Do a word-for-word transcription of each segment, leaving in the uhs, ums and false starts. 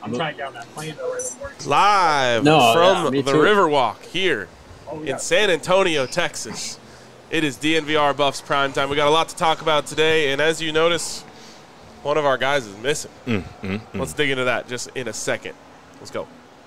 I'm trying down that plane though. Live no, from yeah, the Riverwalk here oh, yeah. in San Antonio, Texas. It is D N V R Buffs Prime Time. We got a lot to talk about today, and as you notice, one of our guys is missing. Mm, mm, mm. Let's dig into that just in a second. Let's go.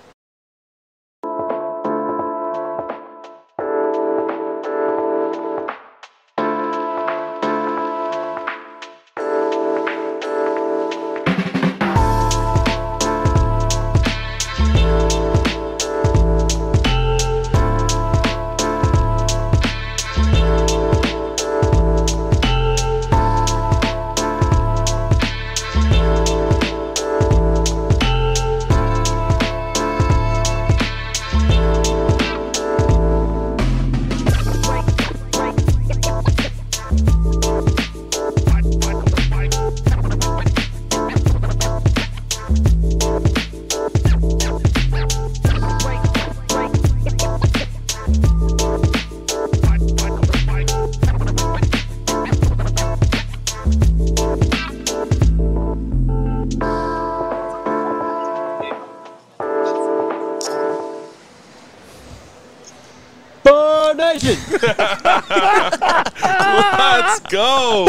Let's go.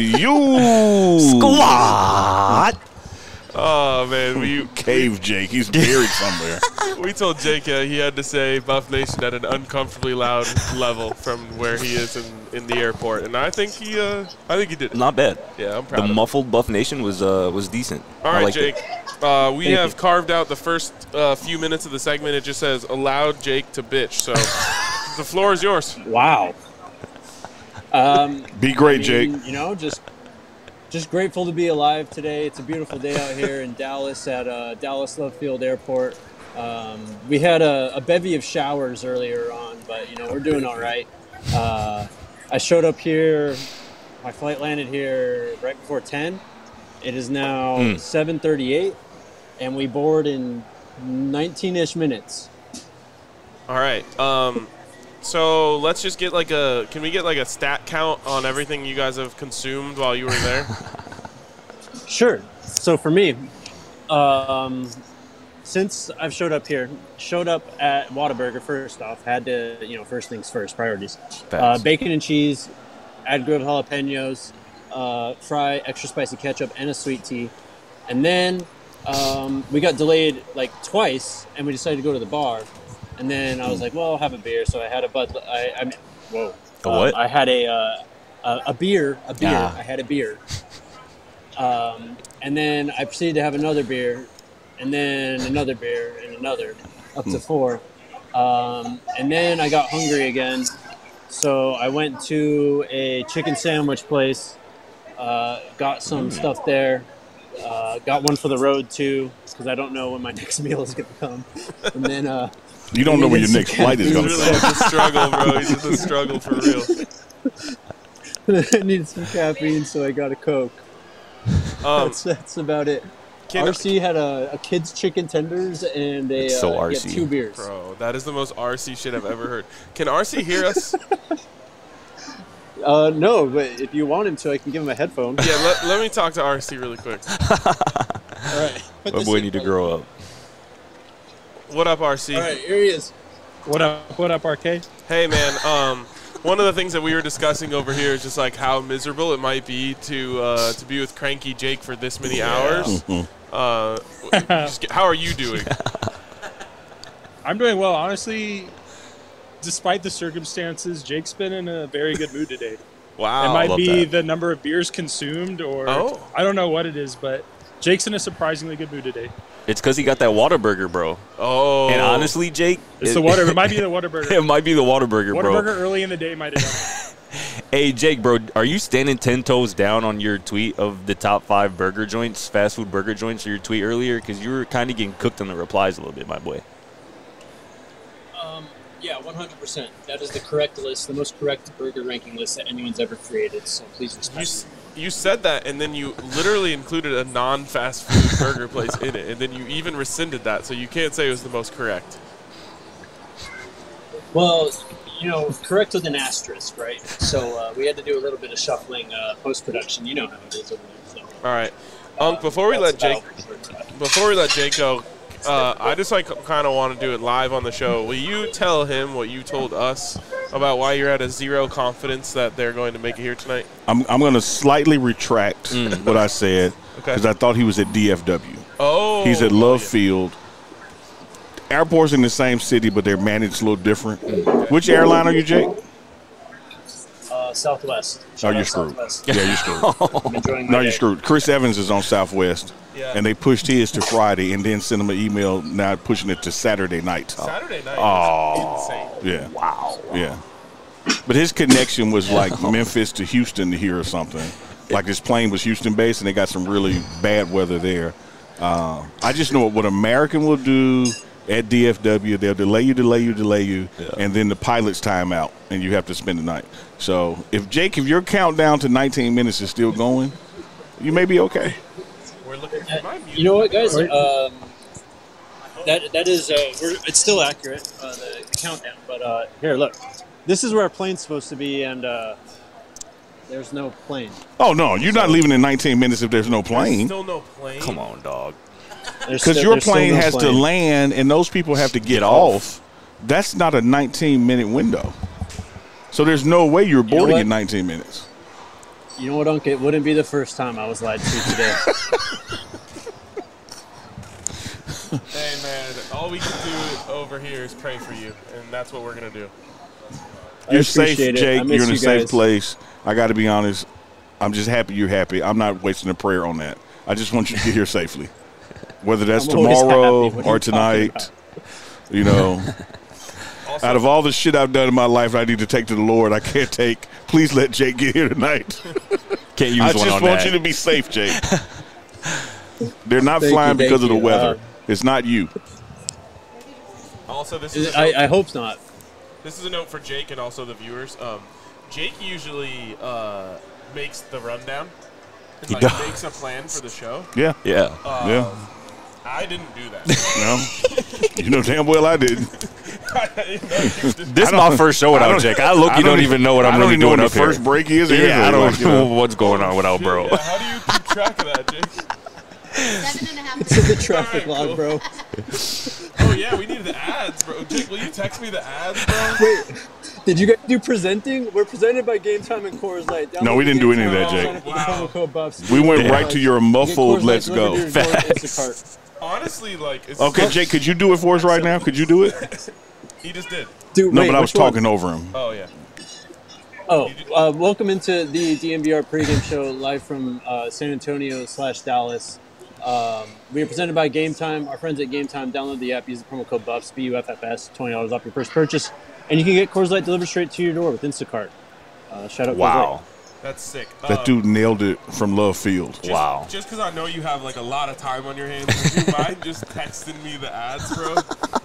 You squad. Oh man, we cave Jake. He's buried somewhere. We told Jake uh, he had to say Buff Nation at an uncomfortably loud level from where he is in, in the airport, and I think he, uh, I think he did it. Not bad. Yeah, I'm proud. The of muffled Buff Nation was uh, was decent. All right, Jake. It. Uh, we Thank have you. carved out the first uh, few minutes of the segment. It just says allowed Jake to bitch. So the floor is yours. Wow. Um, Be great, I mean, Jake. You know, just just grateful to be alive today. It's a beautiful day out here in Dallas at uh, Dallas Love Field Airport. Um, we had a, a bevy of showers earlier on, but you know we're doing all right. Uh, I showed up here. My flight landed here right before ten. It is now Mm. seven thirty-eight, and we board in nineteen-ish minutes. All right. Um, so let's just get like a. Can we get like a stat count on everything you guys have consumed while you were there? Sure. So for me, um, since I've showed up here, showed up at Whataburger first off, had to, you know, first things first, priorities. Uh, bacon and cheese, add grilled jalapenos, uh, fry, extra spicy ketchup, and a sweet tea. And then um, we got delayed like twice, and we decided to go to the bar. And then I was like, well, I'll have a beer. So I had a Bud. I, I mean, whoa. A what? Um, I had a, uh, a a beer. A beer. Ah. I had a beer. Um, and then I proceeded to have another beer, and then another beer, and another, up to four. Um, and then I got hungry again, so I went to a chicken sandwich place, uh, got some stuff there, uh, got one for the road too, because I don't know when my next meal is going to come. And then uh, You don't know when your next flight is He's going to really come. in the struggle, bro. He's in the struggle for real. I needed some caffeine, so I got a Coke. Um, That's, that's about it. Can- R C had a, a kid's chicken tenders and a It's so uh, R yeah, C. two beers. Bro, that is the most R C shit I've ever heard. Can R C hear us? Uh, no, but if you want him to, I can give him a headphone. Yeah, let, let me talk to R C really quick. All right. Put My this boy in need to front grow up. What up, R C? of- All right, here he is. What up? What up, Arcade? Hey, man. Um, one of the things that we were discussing over here is just like how miserable it might be to uh, to be with cranky Jake for this many hours. Uh, just get, how are you doing? I'm doing well. Honestly, despite the circumstances, Jake's been in a very good mood today. Wow. it might love be that. the number of beers consumed, or Oh. I don't know what it is, but Jake's in a surprisingly good mood today. It's because he got that Whataburger, bro. Oh. And honestly, Jake, It's it, the water. It might be the Whataburger. it might be the Whataburger, bro. Whataburger early in the day might have done it. Hey, Jake, bro, are you standing ten toes down on your tweet of the top five burger joints, fast food burger joints, or your tweet earlier? Because you were kind of getting cooked on the replies a little bit, my boy. Um, yeah, one hundred percent. That is the correct list, the most correct burger ranking list that anyone's ever created. So please You, respect s- me. you said that, and then you literally included a non-fast food burger place in it, and then you even rescinded that, so you can't say it was the most correct. Well, you know, correct with an asterisk, right? So uh, we had to do a little bit of shuffling uh, post-production. You know how it is over there. So. All right. Unc, before we let That's Jake, about- before we let Jake go, uh, I just like kind of want to do it live on the show. Will you tell him what you told us about why you're at a zero confidence that they're going to make it here tonight? I'm, I'm going to slightly retract what I said Okay. because I thought he was at D F W. Oh, He's at Love yeah. Field. Airports in the same city, but they're managed a little different. Which airline are you, Jake? Uh, Southwest. Oh, Shout you're out screwed. Southwest. Yeah, you're screwed. I'm enjoying my No, day. you're screwed. Chris Evans is on Southwest, Yeah. and they pushed his to Friday and then sent him an email now pushing it to Saturday night. Saturday night Oh. is insane. Yeah. Wow. Yeah. But his connection was like Memphis to Houston here or something. Like his plane was Houston-based, and they got some really bad weather there. Uh, I just know what American will do at D F W. They'll delay you, delay you, delay you, Yeah. and then the pilot's time out, and you have to spend the night. So if, Jake, if your countdown to nineteen minutes is still going, you may be okay. We're looking for my music. You know what, guys? Um, that that is uh, we're, it's still accurate, uh, the, the countdown. But uh, here, look, this is where our plane's supposed to be, and uh, there's no plane. Oh, no, you're not leaving in nineteen minutes if there's no There's plane. still no plane. Come on, dog. There's Because still- your there's still plane no has to plane. land, and those people have to get, Get off. off. That's not a nineteen-minute window. So there's no way you're know boarding what? in nineteen minutes. You know what, Unc? It wouldn't be the first time I was lied to today. Hey, man, all we can do over here is pray for you, and that's what we're going to do. I You're safe, appreciate it. Jake. I miss You're in a you safe guys. place. I got to be honest. I'm just happy you're happy. I'm not wasting a prayer on that. I just want you to get here safely. Whether that's I'm always tomorrow happy. What are or you talking tonight, about? you know, Also, out of all the shit I've done in my life I need to take to the Lord, I can't take. Please let Jake get here tonight. Can't use I one just on want that. you to be safe, Jake. They're not Thank flying you, because of thank the you. weather. Uh, It's not you. also, this is a I, note, I hope not. this is a note for Jake and also the viewers. Um, Jake usually uh, makes the rundown. And, He like, does. makes a plan for the show. Yeah. Yeah. Uh, Yeah. I didn't do that. No. You know damn well I didn't. This is my first show I without don't- Jake. I look, I you don't don't even- even know what I'm I don't really even know doing when up the here. first break is. Yeah, either, I don't like, you know. know what's going on without bro. Yeah, how do you keep track of that, Jake? Seven and a half. It's in the traffic Alright, log, cool. bro. Oh, yeah, we need the ads, bro. Jake, will you text me the ads, bro? Wait, did you guys do presenting? We're presented by Game Time and Coors Light. Download No, we the didn't do Game any of Time that, app, Jake. sign up with the Wow. promo code Buffs. We went Yeah. right to your muffled Get Coors Light let's go. delivered to your door with Facts. Instacart. Honestly, like, it's Okay, Jake, could you do it for us right now? Could you do it? he just did. Dude, No, wait, but I was which one? talking over him. Oh, yeah. Oh, uh, welcome into the D M V R pregame show live from uh, San Antonio slash Dallas. Um, we are presented by Game Time. Our friends at Game Time, download the app, use the promo code BUFFS, B U F F S, twenty dollars off your first purchase. And you can get Coors Light delivered straight to your door with Instacart. Uh, shout out Coors Wow. Light. That's sick. That Um, dude nailed it from Love Field. Just, Wow. Just because I know you have like a lot of time on your hands, would you mind just texting me the ads, bro?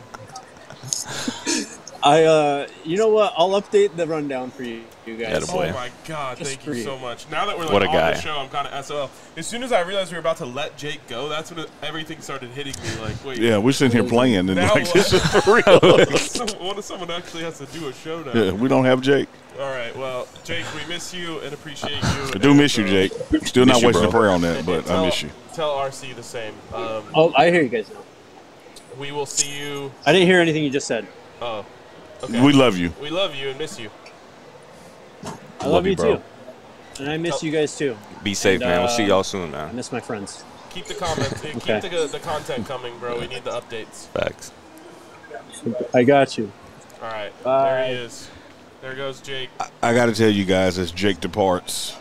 I, uh, you know what? I'll update the rundown for you, you guys. Attaboy. Boy. Oh my god, Just thank for you you. so much. Now that we're like What a on guy. the show, I'm kind of S O L. As soon as I realized we were about to let Jake go, that's when it, everything started hitting me. Like, wait, Yeah, we're sitting here playing, and Now like, what? this is for real. someone, what if someone actually has to do a show now? Yeah, we don't have Jake. All right, well, Jake, we miss you and appreciate you. I do miss you, Jake. Still not Miss you, wasting a bro. prayer on that, but tell, I miss you. Tell R C the same. Um, Oh, I hear you guys now. we will see you. I didn't hear anything you just said. Oh, okay. We love you. We love you and miss you. I love, Love you, you, bro. too. And I miss you guys too. Be safe, And, man. We'll uh, see y'all soon, I man. miss my friends. Keep the comments. Okay. Keep the, the content coming, bro. We need the updates. Facts. I got you. All right, Bye. there he is. There goes Jake. I got to tell you guys, as Jake departs,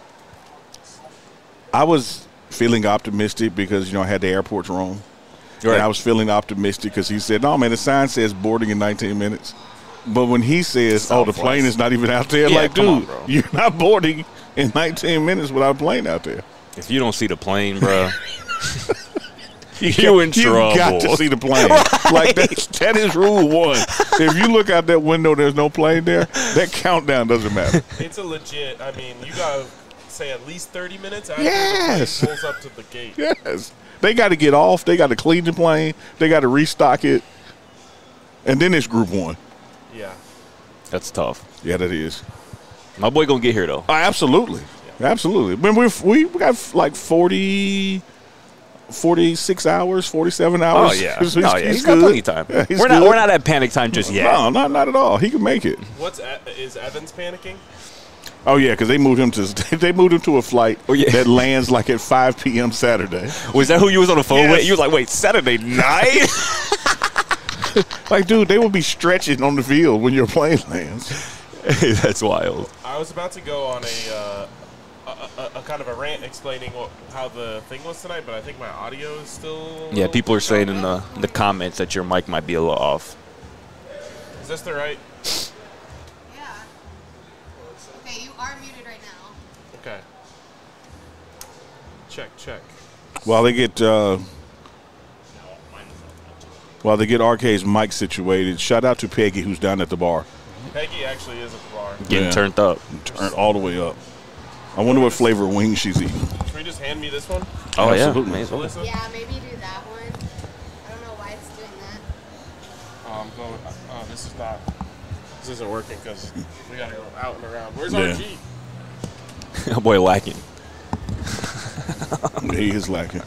I was feeling optimistic because, you know, I had the airports wrong. Right. And I was feeling optimistic because he said, no, man, the sign says boarding in nineteen minutes. But when he says, oh, the Southwest. plane is not even out there, Yeah, like, come on, dude, bro. you're not boarding in nineteen minutes without a plane out there. If you don't see the plane, bro, You, You in you got to trouble. see the plane. Like, that, that is rule one. If you look out that window, there's no plane there, that countdown doesn't matter. It's a legit. I mean, you gotta say at least thirty minutes after Yes. the plane pulls up to the gate. Yes. They got to get off. They got to clean the plane. They got to restock it. And then it's group one. Yeah. that's tough. Yeah, that is. My boy gonna get here though. Oh, absolutely. Absolutely. When we we we got like forty, forty-six hours, forty-seven hours. Oh yeah, He's, oh, yeah. he's he's got good. plenty of time. Yeah, he's we're not good. we're not at panic time just yet. No, not not at all. He can make it. What's E- is Evans panicking? Oh yeah, because they moved him to they moved him to a flight Oh, yeah. that lands like at five p.m. Saturday. Was that who you was on the phone Yes. with? You was like, wait, Saturday night? Like, dude, they will be stretching on the field when your plane lands. Hey, that's wild. I was about to go on a, uh, a, a, a kind of a rant explaining what, how the thing was tonight, but I think my audio is still. Yeah, people are saying in the the comments that your mic might be a little off. Is this the right? Yeah. Okay, you are muted right now. Okay. Check, check. While they get uh, while they get R K's mic situated, shout out to Peggy who's down at the bar. Peggy actually is at the bar. Getting Yeah. turned up. Turned all the way up. I wonder what flavor wing she's eating. Should we just hand me this one? Oh Absolutely. yeah, may as well. Melissa? Yeah, maybe do that one. I don't know why it's doing that. Oh, I'm going. Oh, this is not. This isn't working because we gotta go out and around. Where's Yeah. R G? That boy lacking. He is lacking.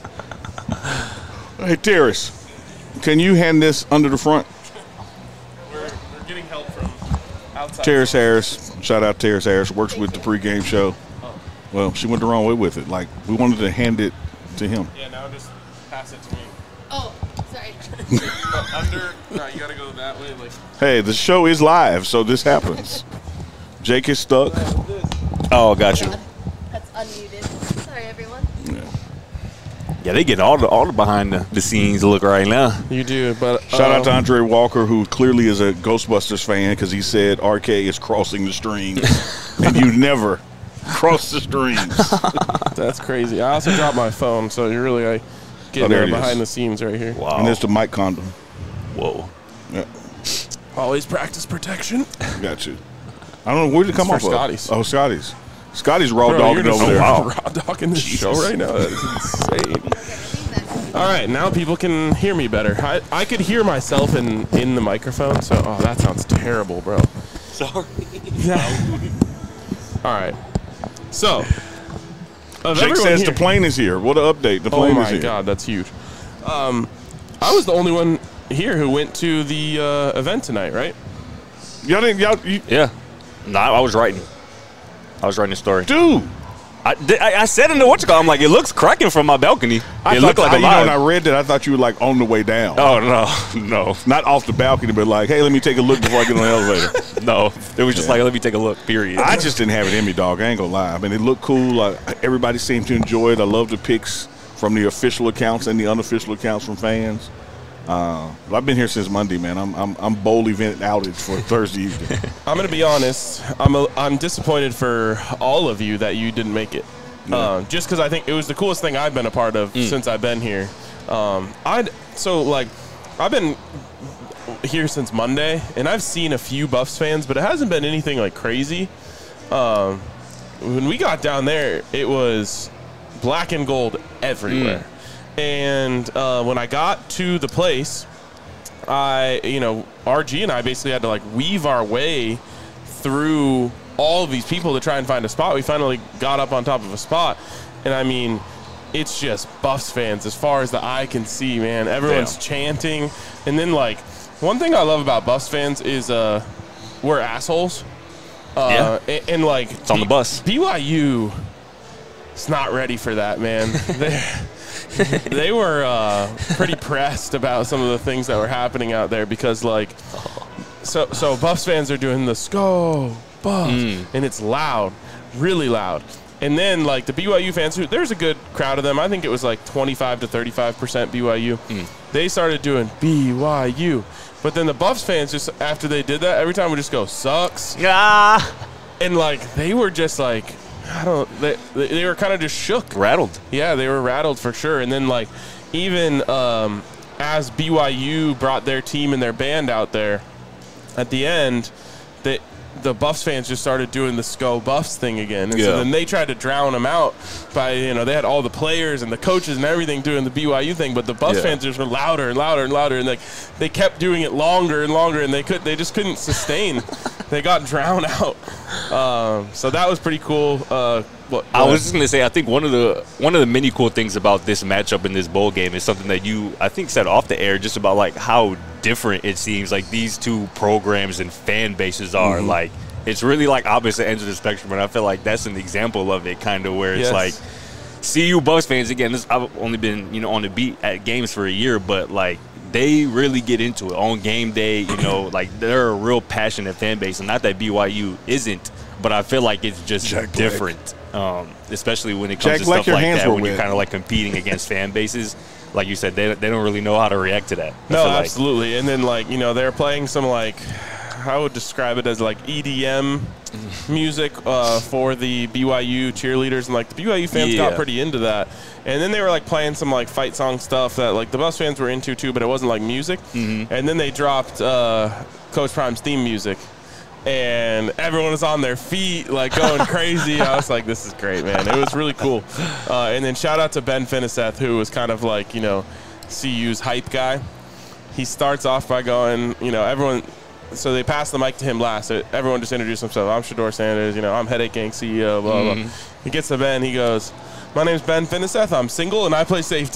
Hey, Terrace, can you hand this under the front? We're, we're getting help from outside. Terrace Harris, shout out Terrace Harris, works with the pregame show. Well, she went the wrong way with it. Like, we wanted to hand it to him. Yeah, now just pass it to me. Oh, sorry. But under. No, you gotta go that way. Like. Hey, the show is live, so this happens. Jake is stuck. Oh, got you. That's unmuted. Sorry, everyone. Yeah, they get all the all the behind the, the scenes look right now. You do, but Shout out to Andre Walker, who clearly is a Ghostbusters fan, because he said R K is crossing the streams, and you never cross the streams. That's crazy. I also dropped my phone, so you're really like getting Oh, there there it is. behind the scenes right here. Wow. And there's the mic condom. Whoa. Yeah, Always practice protection. got you. I don't know where did it come It's off for of. Scotty's. Oh, Scotty's. Scotty's raw Bro, dogging you're just over there. raw dogging this show right now. That is insane. All right, now people can hear me better. I, I could hear myself in, in the microphone, so oh, that sounds terrible, bro. Sorry. Yeah. All right. So, of Jake everyone says here- the plane is here. What an update. The Oh plane my is here. God, that's huge. Um, I was the only one here who went to the uh, event tonight, right? Y'all didn't, y'all, you, Yeah. No, I was writing. I was writing a story. dude. I, did- I, I said in the what's it called, I'm like, it looks cracking from my balcony. I it thought, looked like I, a you know, when I live. read that, I thought you were like on the way down. Oh no, no, Not off the balcony, but like, hey, let me take a look before I get on the elevator. no. It was just like, let me take a look. Period. I just didn't have it in me, dog. I ain't gonna lie. I mean, it looked cool. Like, everybody seemed to enjoy it. I love the pics from the official accounts and the unofficial accounts from fans. Uh, but I've been here since Monday, man. I'm I'm, I'm bold event outage for Thursday evening. I'm gonna be honest. I'm a, I'm disappointed for all of you that you didn't make it. Uh, just because I think it was the coolest thing I've been a part of since I've been here. Um, I so like I've been here since Monday, and I've seen a few Buffs fans, but it hasn't been anything like crazy. Um, when we got down there, it was black and gold everywhere. And uh, when I got to the place, I, you know, R G and I basically had to like weave our way through all of these people to try and find a spot. We finally got up on top of a spot, and I mean, it's just Buffs fans as far as the eye can see, man. Everyone's Damn. chanting, and then like one thing I love about Buffs fans is uh, we're assholes. Uh, Yeah. and, and like It's on the bus. B Y U is not ready for that, man. they they were uh, pretty pressed about some of the things that were happening out there because like so so Buffs fans are doing the "Go Buffs" and it's loud, really loud. And then like the B Y U fans, who there's a good crowd of them. I think it was like twenty-five to thirty-five percent B Y U. They started doing B Y U. But then the Buffs fans, just after they did that, every time would just go, "Sucks." Yeah. And like they were just like, I don't, they, they were kind of just shook. Rattled. Yeah, they were rattled for sure. And then like even um, as B Y U brought their team and their band out there, at the end, they the Buffs fans just started doing the Go Buffs thing again. And Yeah. so then they tried to drown them out by, you know, they had all the players and the coaches and everything doing the B Y U thing, but the Buffs Yeah. fans just were louder and louder and louder, and like they kept doing it longer and longer, and they could they just couldn't sustain. They got drowned out. Um, so that was pretty cool. Uh, what, I what- was just gonna say, I think one of the one of the many cool things about this matchup in this bowl game is something that you, I think, said off the air, just about like how different it seems like these two programs and fan bases are. Mm-hmm. Like, it's really like opposite ends of the spectrum, and I feel like that's an example of it, kind of where it's Yes. like, C U Bucks fans again. This, I've only been you know on the beat at games for a year, but like they really get into it on game day. You know, like they're a real passionate fan base, and not that B Y U isn't, but I feel like it's just Jack Black. different. Um, especially when it comes Jack to Black, stuff your like hands that, were when you're wet. kind of like competing against fan bases. Like you said, they, they don't really know how to react to that. I No, feel like. absolutely. And then, like, you know, they're playing some, like, I would describe it as, like, E D M music uh, for the B Y U cheerleaders. And, like, the B Y U fans got Yeah. pretty into that. And then they were, like, playing some, like, fight song stuff that, like, the Buffs fans were into, too, but it wasn't, like, music. Mm-hmm. And then they dropped uh, Coach Prime's theme music. And everyone was on their feet, like, going crazy. I was like, this is great, man. It was really cool. Uh, and then shout out to Ben Finiseth, who was kind of like, you know, C U's hype guy. He starts off by going, you know, everyone – so they passed the mic to him last. So everyone just introduced himself. I'm Shador Sanders. You know, I'm Headache Gang C E O, blah, Mm-hmm. blah. He gets to Ben. He goes, my name's Ben Finiseth. I'm single, and I play safety.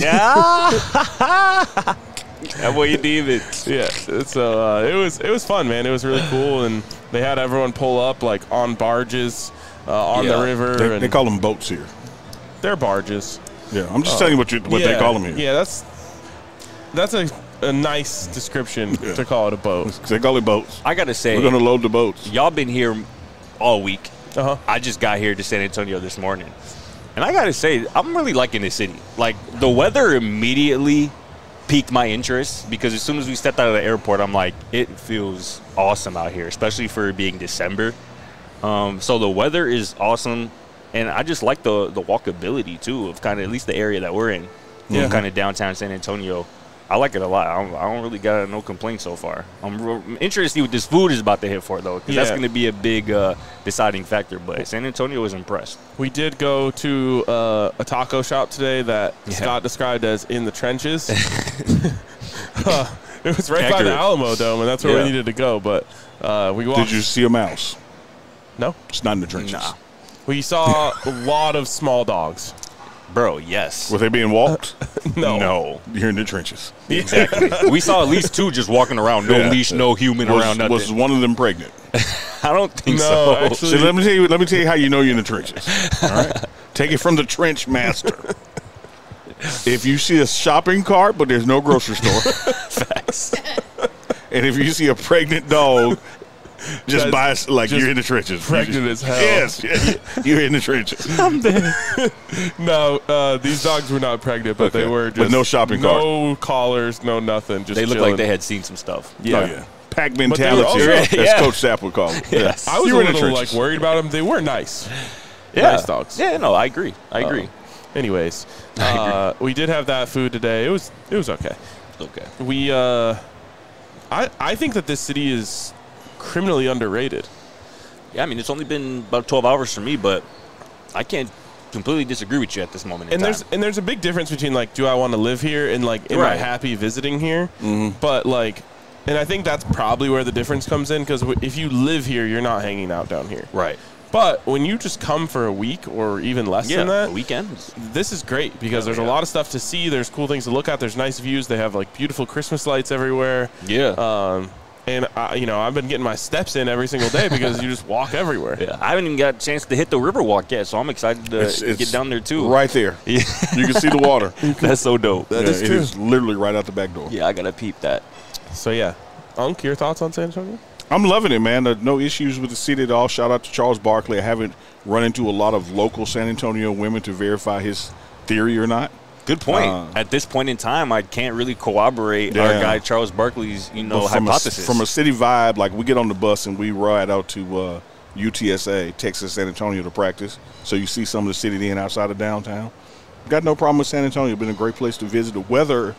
That boy, you deem it. Yeah, so uh, it was it was fun, man. It was really cool, and they had everyone pull up like on barges uh, on Yeah. the river. They, and they call them boats here. they're barges. Yeah, I'm just telling you what you, what yeah, they call them here. Yeah, that's that's a, a nice description Yeah. to call it a boat. They call it boats. I gotta say, We're gonna load the boats. y'all been here all week. Uh huh. I just got here to San Antonio this morning, and I gotta say, I'm really liking this city. Like, the weather immediately piqued my interest, because as soon as we stepped out of the airport, I'm like, it feels awesome out here, especially for it being December. Um, so the weather is awesome, and I just like the the walkability too of kind of at least the area that we're in. Yeah. Kind of downtown San Antonio. I like it a lot. I don't, I don't really got no complaints so far. I'm real, I'm interested to see what this food is about to hit for, though, because that's Yeah. going to be a big uh, deciding factor. But San Antonio was impressed. We did go to uh, a taco shop today that Yeah. Scott described as in the trenches. Uh, it was right by Accurate. the Alamo Dome, and that's where Yeah. we needed to go. But uh, we walked. Did you see a mouse? No. It's not in the trenches. Nah. We saw a lot of small dogs. Bro, yes. Were they being walked? No. No. You're in the trenches. Exactly. We saw at least two just walking around. No Yeah. leash, no human Was, around, nothing. was one of them pregnant? I don't think No, so. actually- So let me tell you. Let me tell you how you know you're in the trenches. All right, take it from the trench master. If you see a shopping cart but there's no grocery store, Facts. and if you see a pregnant dog, just That's buy like just you're in the trenches. pregnant as hell. Yes, yeah, you're in the trenches. No, uh, these dogs were not pregnant, but they Okay. were But just no shopping cart. no collars, no nothing. Just They looked chilling. like they had seen some stuff. Yeah. Oh yeah, pack they were mentality. also- as Yeah. Coach Sapp would call it. Yes. I was You a were in the little like trenches. worried about them. They were nice. Yeah. Nice dogs. Yeah, no, I agree. I agree. Um, anyways, uh, we did have that food today. It was it was okay. Okay. We uh, I I think that this city is criminally underrated. Yeah, I mean, it's only been about twelve hours for me, but I can't completely disagree with you at this moment in And time. there's and there's a big difference between like, do I want to live here and like, am I Right. happy visiting here? But like, and I think that's probably where the difference comes in, because w- if you live here, you're not hanging out down here. right. But when you just come for a week or even less Yeah, than that, a weekend. this is great because there's yeah. a lot of stuff to see. There's cool things to look at. There's nice views. They have like beautiful Christmas lights everywhere. Yeah. Um, and I, you know, I've been getting my steps in every single day because you just walk everywhere. Yeah, I haven't even got a chance to hit the Riverwalk yet, so I'm excited to It's- it's get down there too. Right there. Yeah. You can see the water. That's so dope. Yeah, is it true. is literally right out the back door. Yeah, I gotta peep that. So yeah, Unc, your thoughts on San Antonio? I'm loving it, man. Uh, no issues with the city at all. Shout out to Charles Barkley. I haven't run into a lot of local San Antonio women to verify his theory or not. Good point. Uh, At this point in time, I can't really corroborate our Yeah. guy Charles Barkley's, you know, But from hypothesis. A, from a city vibe, like we get on the bus and we ride out to uh, U T S A, Texas San Antonio, to practice. So you see some of the city then outside of downtown. Got no problem with San Antonio. Been a great place to visit. The weather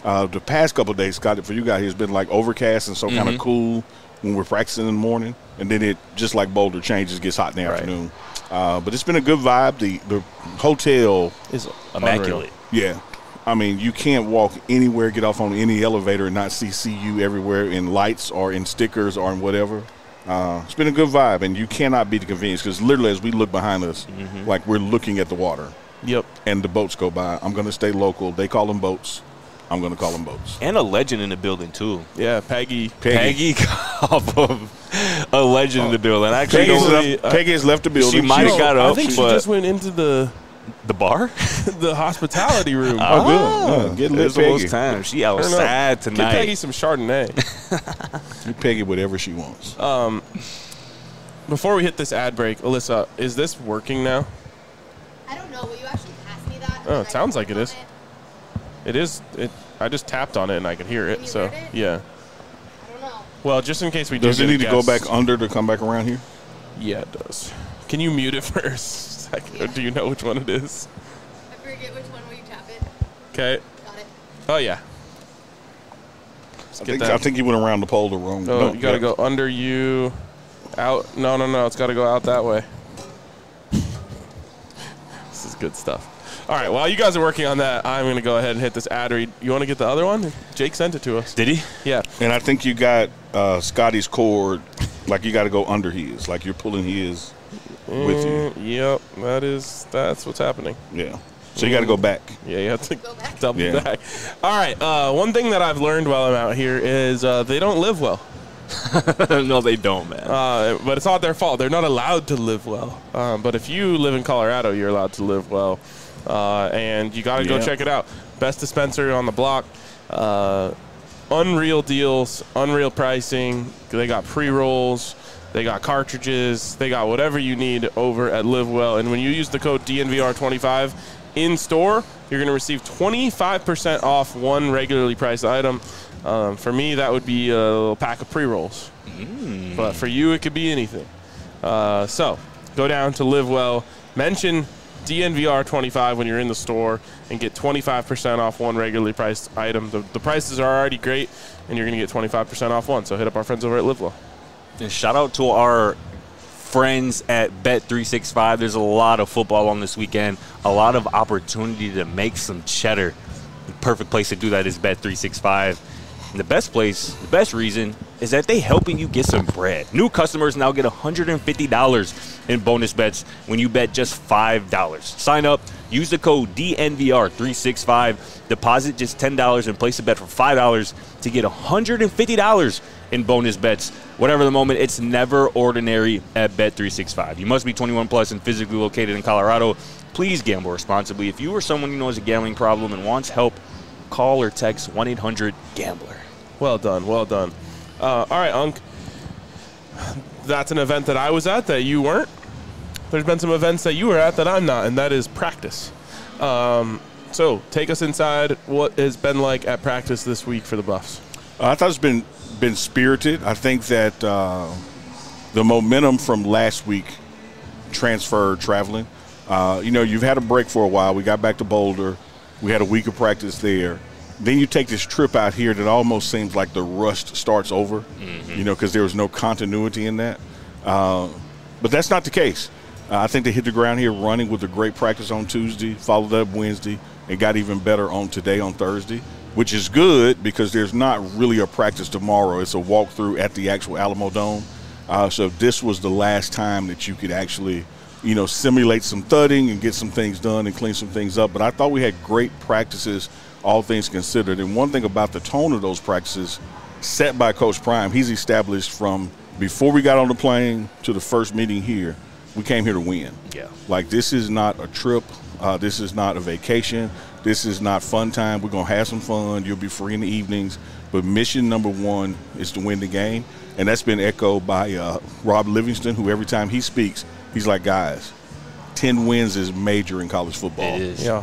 Uh, the past couple of days, Scott, for you guys, it's been like overcast and so Mm-hmm. kind of cool when we're practicing in the morning, and then it just like Boulder changes, gets hot in the Right. afternoon. Uh, but it's been a good vibe. The the hotel Is Immaculate. Yeah. I mean, you can't walk anywhere, get off on any elevator and not see C U everywhere in lights or in stickers or in whatever. Uh, it's been a good vibe, and you cannot beat the convenience because literally as we look behind us, Mm-hmm. like we're looking at the water Yep. and the boats go by. I'm going to stay local. They call them boats. I'm going to call them boats. And a legend in the building, too. Yeah, Peggy. Peggy. Peggy Koppel, a legend in the building. Actually, Peggy, has don't- left, Peggy has left the building. She might have She's- got I up, think she but just went into the the bar? the hospitality room. Oh, good. Yeah, get lit, It's those Peggy. times. She I don't know. outside Get tonight. Peggy some Chardonnay. You Peggy whatever she wants. Before we hit this ad break, Alyssa, is this working now? I don't know. Will you actually pass me that? Oh, And it I sounds can like it work is. on it? It is. It. I just tapped on it and I could hear Can it. you So hear it? yeah. I don't know. Well, just in case we do Does it get a need to go guest- back under to come back around here? Yeah, it does. Can you mute it for a second? Or do you know which one it is? I forget which one. Will you tap it? Okay. Got it. Oh yeah. Let's I get think, that. I think you went around the pole the wrong. No, no, you gotta yeah. go under you, out. No, no, no. It's gotta go out that way. This is good stuff. All right. While you guys are working on that, I'm gonna go ahead and hit this ad read. You want to get the other one? Jake sent it to us. Did he? Yeah. And I think you got uh, Scotty's cord, like you got to go under his, like you're pulling his with you. Mm, Yep. That is. That's what's happening. Yeah. So you got to go back. Yeah, you have to Go back. double Yeah. back. All right. Uh, one thing that I've learned while I'm out here is uh, they don't live well. No, they don't, man. Uh, but it's not their fault. They're not allowed to live well. Um, but if you live in Colorado, you're allowed to live well. Uh, and you got to go Yeah. check it out. Best dispensary on the block. Uh, unreal deals, unreal pricing. They got pre-rolls. They got cartridges. They got whatever you need over at Live Well. And when you use the code D N V R twenty-five in store, you're going to receive twenty-five percent off one regularly priced item. Um, for me, that would be a little pack of pre-rolls. But for you, it could be anything. Uh, so go down to Live Well, mention D N V R twenty-five when you're in the store, and get twenty-five percent off one regularly priced item. The, the prices are already great, and you're going to get twenty-five percent off one. So hit up our friends over at Live Well. And shout out to our friends at Bet three sixty-five. There's a lot of football on this weekend, a lot of opportunity to make some cheddar. The perfect place to do that is Bet three sixty-five. And the best place, the best reason is that they helping you get some bread. New customers now get one hundred fifty dollars in bonus bets when you bet just five dollars. Sign up, use the code D N V R three sixty-five, deposit just ten dollars and place a bet for five dollars to get one hundred fifty dollars in bonus bets. Whatever the moment, it's never ordinary at Bet three sixty-five. You must be twenty-one plus and physically located in Colorado. Please gamble responsibly. If you or someone you know has a gambling problem and wants help, call or text one eight hundred gambler. Well done, well done. Uh, all right, Unc. That's an event that I was at that you weren't. There's been some events that you were at that I'm not, and that is practice. Um, so take us inside. What has been like at practice this week for the Buffs? Uh, I thought it's been been spirited. I think that uh, the momentum from last week transferred traveling. Uh, you know, you've had a break for a while. We got back to Boulder. We had a week of practice there. Then you take this trip out here that almost seems like the rust starts over, mm-hmm. you know, because there was no continuity in that. Uh, but that's not the case. Uh, I think they hit the ground here running with a great practice on Tuesday, followed up Wednesday, and got even better on today on Thursday, which is good because there's not really a practice tomorrow. It's a walkthrough at the actual Alamo Dome. Uh, so this was the last time that you could actually, you know, simulate some thudding and get some things done and clean some things up. But I thought we had great practices, all things considered. And one thing about the tone of those practices set by Coach Prime, he's established from before we got on the plane to the first meeting here, we came here to win. Yeah. Like, this is not a trip. Uh, this is not a vacation. This is not fun time. We're going to have some fun. You'll be free in the evenings. But mission number one is to win the game. And that's been echoed by uh, Rob Livingston, who every time he speaks, he's like, guys, ten wins is major in college football. It is. Yeah.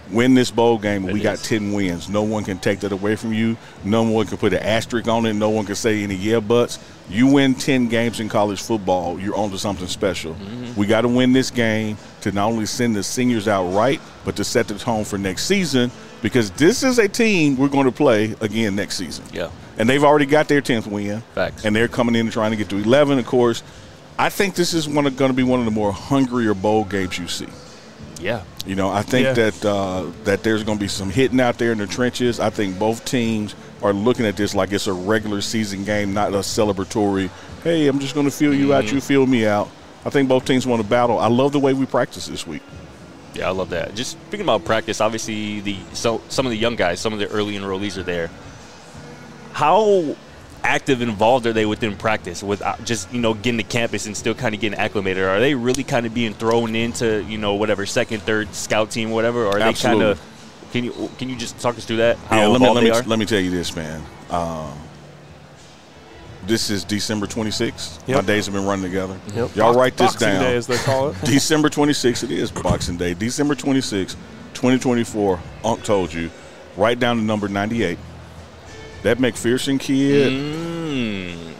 Win this bowl game, and It we got is. ten wins. No one can take that away from you. No one can put an asterisk on it. No one can say any yeah buts. You win ten games in college football, you're on to something special. Mm-hmm. We got to win this game to not only send the seniors out right, but to set the tone for next season, because this is a team we're going to play again next season. Yeah. And they've already got their tenth win. Facts. And they're coming in and trying to get to eleven, of course. I think this is one going to be one of the more hungrier bowl games you see. Yeah. You know, I think Yeah. that uh, that there's going to be some hitting out there in the trenches. I think both teams are looking at this like it's a regular season game, not a celebratory, hey, I'm just going to feel you out, you feel me out. I think both teams want to battle. I love the way we practice this week. Yeah, I love that. Just speaking about practice, obviously the so some of the young guys, some of the early enrollees are there. How active and involved are they within practice with uh, just, you know, getting to campus and still kind of getting acclimated? Are they really kind of being thrown into, you know, whatever second, third scout team, whatever? Or are Absolutely. they kind of – can you can you just talk us through that? How Yeah, let me involved let they me are? let me tell you this, man. Um, this is December twenty-sixth. My Yep. days have been running together. Yep. Y'all Box- write this Boxing down. Day, as they call it. December twenty-sixth, it is Boxing Day. December twenty-sixth, twenty twenty-four, Unc told you. Write down the number ninety-eight. That McPherson kid, Mm.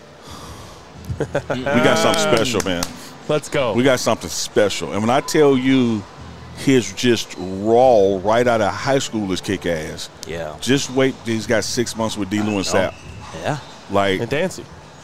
we got something special, man. Let's go. We got something special. And when I tell you his just raw right out of high school is kick ass, Yeah. just wait. He's got six months with D. Lewin Sapp. Yeah. Like, and Dancy.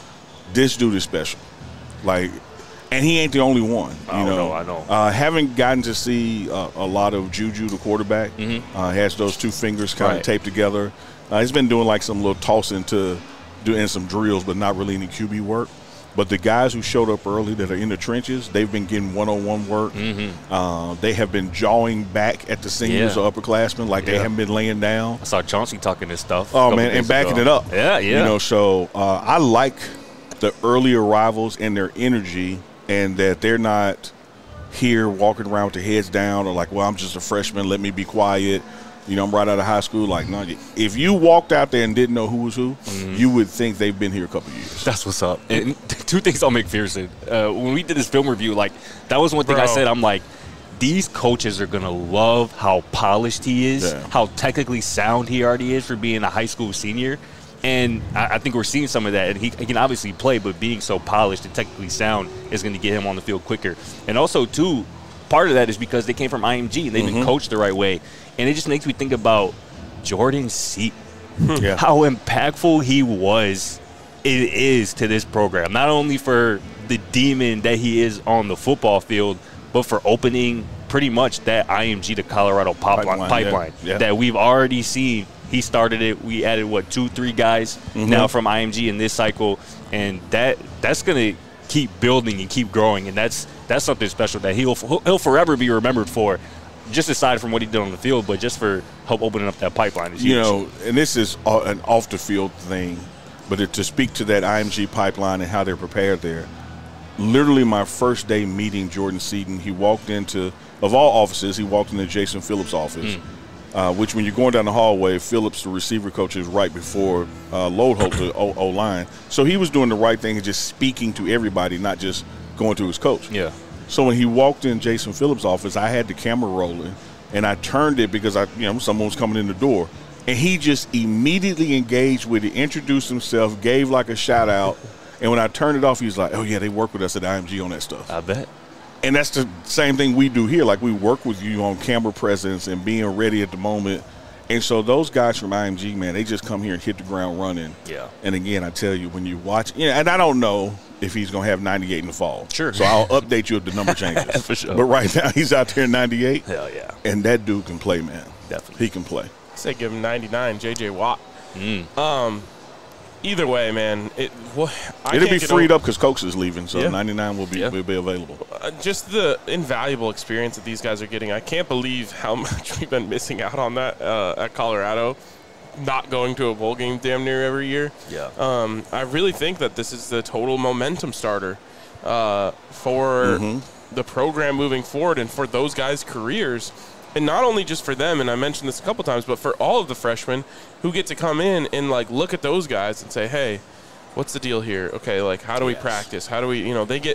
this dude is special. Like, and he ain't the only one. You I know, know, I know. Uh, haven't gotten to see uh, a lot of Juju, the quarterback. Mm-hmm. Uh, has those two fingers kind of Right. taped together. Uh, he's been doing like some little tossing to doing some drills, but not really any Q B work. But the guys who showed up early that are in the trenches, they've been getting one-on-one work. Mm-hmm. Uh, they have been jawing back at the seniors Yeah. or upperclassmen like they Yeah. haven't been laying down. I saw Chauncey talking this stuff. a Oh, couple man, and days backing ago. it up. Yeah, yeah. You know, so uh, I like the early arrivals and their energy, and that they're not here walking around with their heads down or like, well, I'm just a freshman, let me be quiet. You know, I'm right out of high school. Like, no, if you walked out there and didn't know who was who, Mm-hmm. you would think they've been here a couple years. That's what's up. And two things on McPherson. Uh, when we did this film review, like, that was one thing I Bro. said. I'm like, these coaches are going to love how polished he is, Yeah. how technically sound he already is for being a high school senior. And I, I think we're seeing some of that. And he, he can obviously play, but being so polished and technically sound is going to get him on the field quicker. And also, too, part of that is because they came from I M G and they've been coached the right way. And it just makes me think about Jordan Seaton. Yeah. How impactful he was, it is to this program. Not only for the demon that he is on the football field, but for opening pretty much that I M G to Colorado pipeline, Pipeline, pipeline yeah, yeah. that we've already seen. He started it. We added, what, two, three guys Mm-hmm. now from I M G in this cycle. And that that's going to keep building and keep growing. And that's that's something special that he'll he'll forever be remembered for. Just aside from what he did on the field, but just for help opening up that pipeline is huge. You know, and this is a- an off the field thing, but it, to speak to that I M G pipeline and how they're prepared there, literally my first day meeting Jordan Seaton, he walked into, of all offices, he walked into Jason Phillips' office, uh, which when you're going down the hallway, Phillips, the receiver coach, is right before uh, Loadholt, the O- O-line. So he was doing the right thing and just speaking to everybody, not just going to his coach. Yeah. So when he walked in Jason Phillips' office, I had the camera rolling, and I turned it because I, you know, someone was coming in the door, and he just immediately engaged with it, introduced himself, gave like a shout out, and when I turned it off, he was like, "Oh yeah, they work with us at I M G on that stuff." I bet. And that's the same thing we do here. Like, we work with you on camera presence and being ready at the moment. And so those guys from I M G, man, they just come here and hit the ground running. Yeah. And again, I tell you, when you watch, yeah, and I don't know if he's going to have ninety-eight in the fall. Sure. So I'll update you if the number changes. For sure. But right now, he's out there in ninety-eight. Hell yeah. And that dude can play, man. Definitely. He can play. Say give him ninety-nine, J J Watt. Mm. Um, either way, man, it wha- I It'll can't be get freed over- up because Coates is leaving, so Yeah. ninety-nine will be, Yeah. will be available. Uh, just the invaluable experience that these guys are getting. I can't believe how much we've been missing out on that uh, at Colorado, not going to a bowl game damn near every year. Yeah. Um, I really think that this is the total momentum starter uh, for the program moving forward and for those guys' careers. And not only just for them, and I mentioned this a couple times, but for all of the freshmen who get to come in and, like, look at those guys and say, hey, what's the deal here? Okay, like, how do we Yes. practice? How do we, you know, they get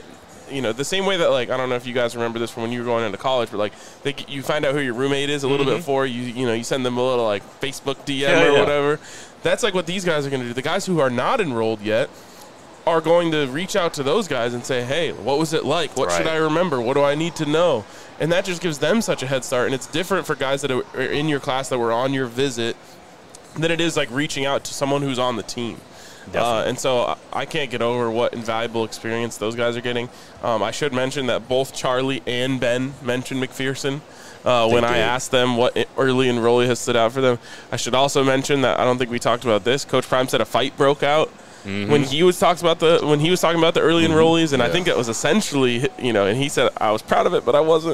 you know, the same way that, like, I don't know if you guys remember this from when you were going into college, but, like, they, you find out who your roommate is a little mm-hmm. bit before. You you know, you send them a little, like, Facebook D M yeah, or yeah. whatever. That's, like, what these guys are going to do. The guys who are not enrolled yet are going to reach out to those guys and say, hey, what was it like? What right. should I remember? What do I need to know? And that just gives them such a head start. And it's different for guys that are in your class that were on your visit than it is, like, reaching out to someone who's on the team. Uh, and so I can't get over what invaluable experience those guys are getting. Um, I should mention that both Charlie and Ben mentioned McPherson uh, when did. I asked them what early enrollee has stood out for them. I should also mention that I don't think we talked about this. Coach Prime said a fight broke out mm-hmm. when he was talks about the when he was talking about the early mm-hmm. enrollees, and yeah. I think it was essentially, you know, and he said I was proud of it, but I wasn't.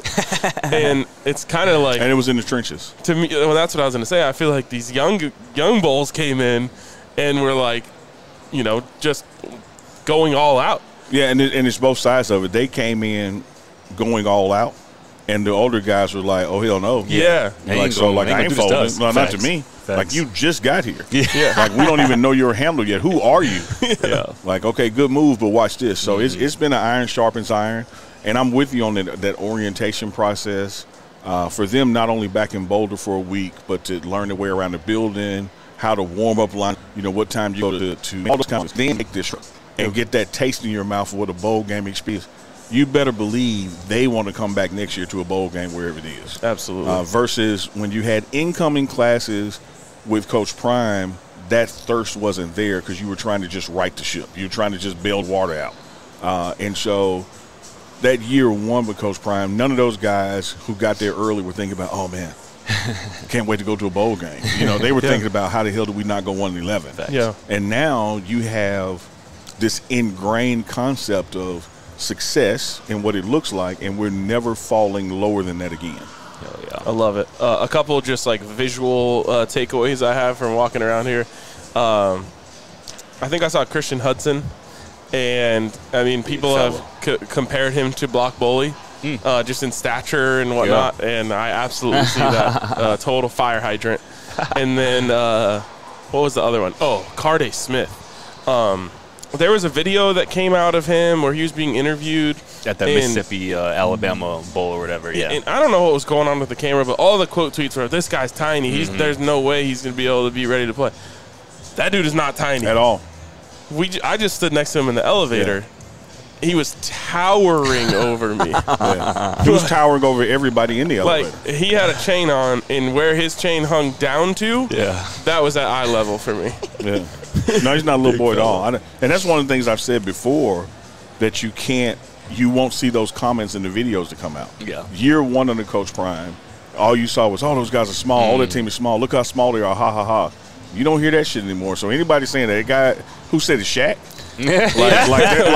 And it's kind of like, and it was in the trenches. To me, well, that's what I was going to say. I feel like these young young bulls came in and were like, you know, just going all out. Yeah, and, it, and it's both sides of it. They came in going all out, and the older guys were like, oh, hell no. Yeah. yeah. Like, so, like, I ain't folding. No, not to me. Facts. Like, you just got here. Yeah. Like, we don't even know your handle yet. Who are you? yeah. Like, okay, good move, but watch this. So, mm-hmm. it's it's been an iron sharpens iron, and I'm with you on that, that orientation process. Uh, for them, not only back in Boulder for a week, but to learn their way around the building, how to warm up line, you know, what time you go to, to all those kinds of things, then make this and get that taste in your mouth of what a bowl game experience. You better believe they want to come back next year to a bowl game wherever it is. Absolutely. Uh, versus when you had incoming classes with Coach Prime, that thirst wasn't there because you were trying to just right the ship. You were trying to just build water out. Uh, and so that year one with Coach Prime, none of those guys who got there early were thinking about, oh, man, can't wait to go to a bowl game. You know, they were yeah. thinking about how the hell do we not go one and eleven. Yeah. And now you have this ingrained concept of success and what it looks like, and we're never falling lower than that again. Hell yeah. I love it. Uh, a couple just like visual uh, takeaways I have from walking around here. Um, I think I saw Christian Hudson, and I mean, people have c- compared him to Block Bully. Mm. Uh, just in stature and whatnot, yeah. and I absolutely see that. Uh, total fire hydrant. And then, uh, what was the other one? Oh, Carday Smith. Um, there was a video that came out of him where he was being interviewed. At the Mississippi, uh, Alabama Bowl or whatever, yeah. And I don't know what was going on with the camera, but all the quote tweets were, this guy's tiny. He's, mm-hmm. There's no way he's going to be able to be ready to play. That dude is not tiny. At all. We, I just stood next to him in the elevator. Yeah. He was towering over me. Yeah. He was towering over everybody in the elevator. Like, he had a chain on, and where his chain hung down to, yeah, that was at eye level for me. Yeah. No, he's not a little boy at all. I, and that's one of the things I've said before, that you can't, you won't see those comments in the videos that come out. Yeah. Year one under Coach Prime, all you saw was, oh, those guys are small. Mm. All their team is small. Look how small they are. Ha, ha, ha. You don't hear that shit anymore. So anybody saying that, a guy who said it's Shaq, like, like, that,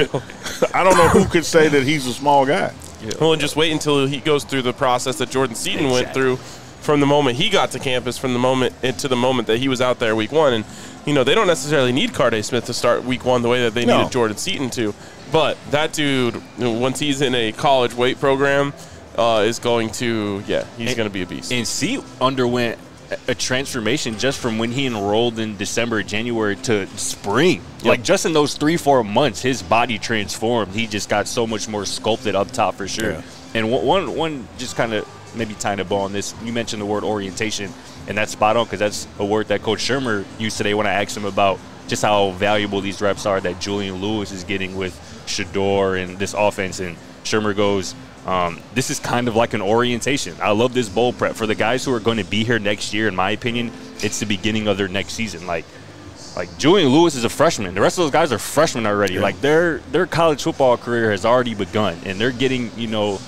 like I don't know who could say that he's a small guy. Yeah. Well, and just wait until he goes through the process that Jordan Seaton exactly. went through from the moment he got to campus, from the moment into the moment that he was out there week one. And, you know, they don't necessarily need Carday Smith to start week one the way that they no. needed Jordan Seaton to. But that dude, you know, once he's in a college weight program, uh, is going to, yeah, he's going to be a beast. And C underwent a transformation just from when he enrolled in December, January to spring. Yep. Like just in those three, four months, his body transformed. He just got so much more sculpted up top for sure. Yeah. And one, one just kind of maybe tying a bow on this, you mentioned the word orientation, and that's spot on because that's a word that Coach Shermer used today when I asked him about just how valuable these reps are that Julian Lewis is getting with Shedeur and this offense. And Shermer goes, Um, this is kind of like an orientation. I love this bowl prep. For the guys who are going to be here next year, in my opinion, it's the beginning of their next season. Like, like Julian Lewis is a freshman. The rest of those guys are freshmen already. Yeah. Like, their their college football career has already begun, and they're getting, you know,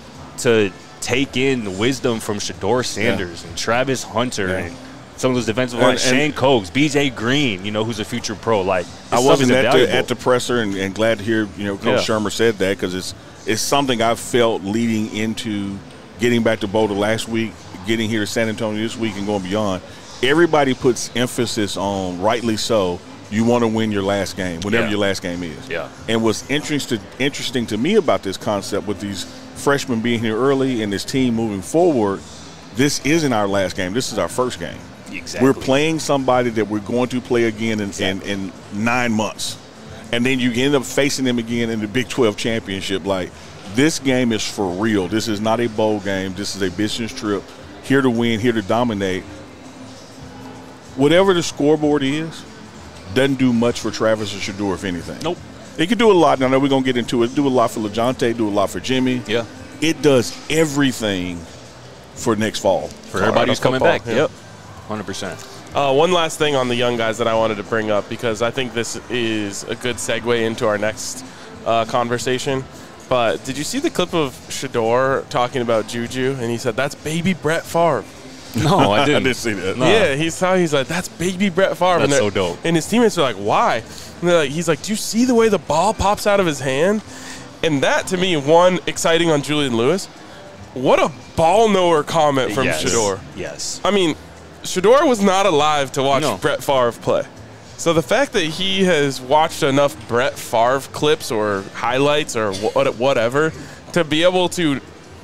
to take in the wisdom from Shedeur Sanders yeah. and Travis Hunter yeah. and some of those defensive lines, Shane Coates, B J Green, you know, who's a future pro. Like, I wasn't at the, at the presser, and, and glad to hear, you know, Coach yeah. Shermer said that because it's it's something I've felt leading into getting back to Boulder last week, getting here to San Antonio this week, and going beyond. Everybody puts emphasis on, rightly so, you want to win your last game, whatever yeah. your last game is. Yeah. And what's interesting interesting to me about this concept with these freshmen being here early and this team moving forward, this isn't our last game. This is our first game. Exactly. We're playing somebody that we're going to play again in, exactly. in, in nine months. and then you end up facing them again in the Big twelve championship. Like, this game is for real. This is not a bowl game. This is a business trip. Here to win, here to dominate. Whatever the scoreboard is, doesn't do much for Travis or Shedeur, if anything. Nope. It could do a lot. I know we're going to get into it. Do a lot for LeJounte, do a lot for Jimmy. Yeah. It does everything for next fall. For everybody who's coming football, back. yeah. Yep. one hundred percent. Uh, one last thing on the young guys that I wanted to bring up, because I think this is a good segue into our next uh, conversation. But did you see the clip of Shedeur talking about Juju? And he said, that's baby Brett Favre. No, I didn't. I didn't see that. No. Yeah, he's talking, he's like, that's baby Brett Favre. That's and so dope. And his teammates are like, why? And they're like, he's like, do you see the way the ball pops out of his hand? And that, to me, one, exciting on Julian Lewis. What a ball knower comment from yes. Shedeur. Yes. I mean, Shedeur was not alive to watch No. Brett Favre play. So the fact that he has watched enough Brett Favre clips or highlights or wh- whatever to be able to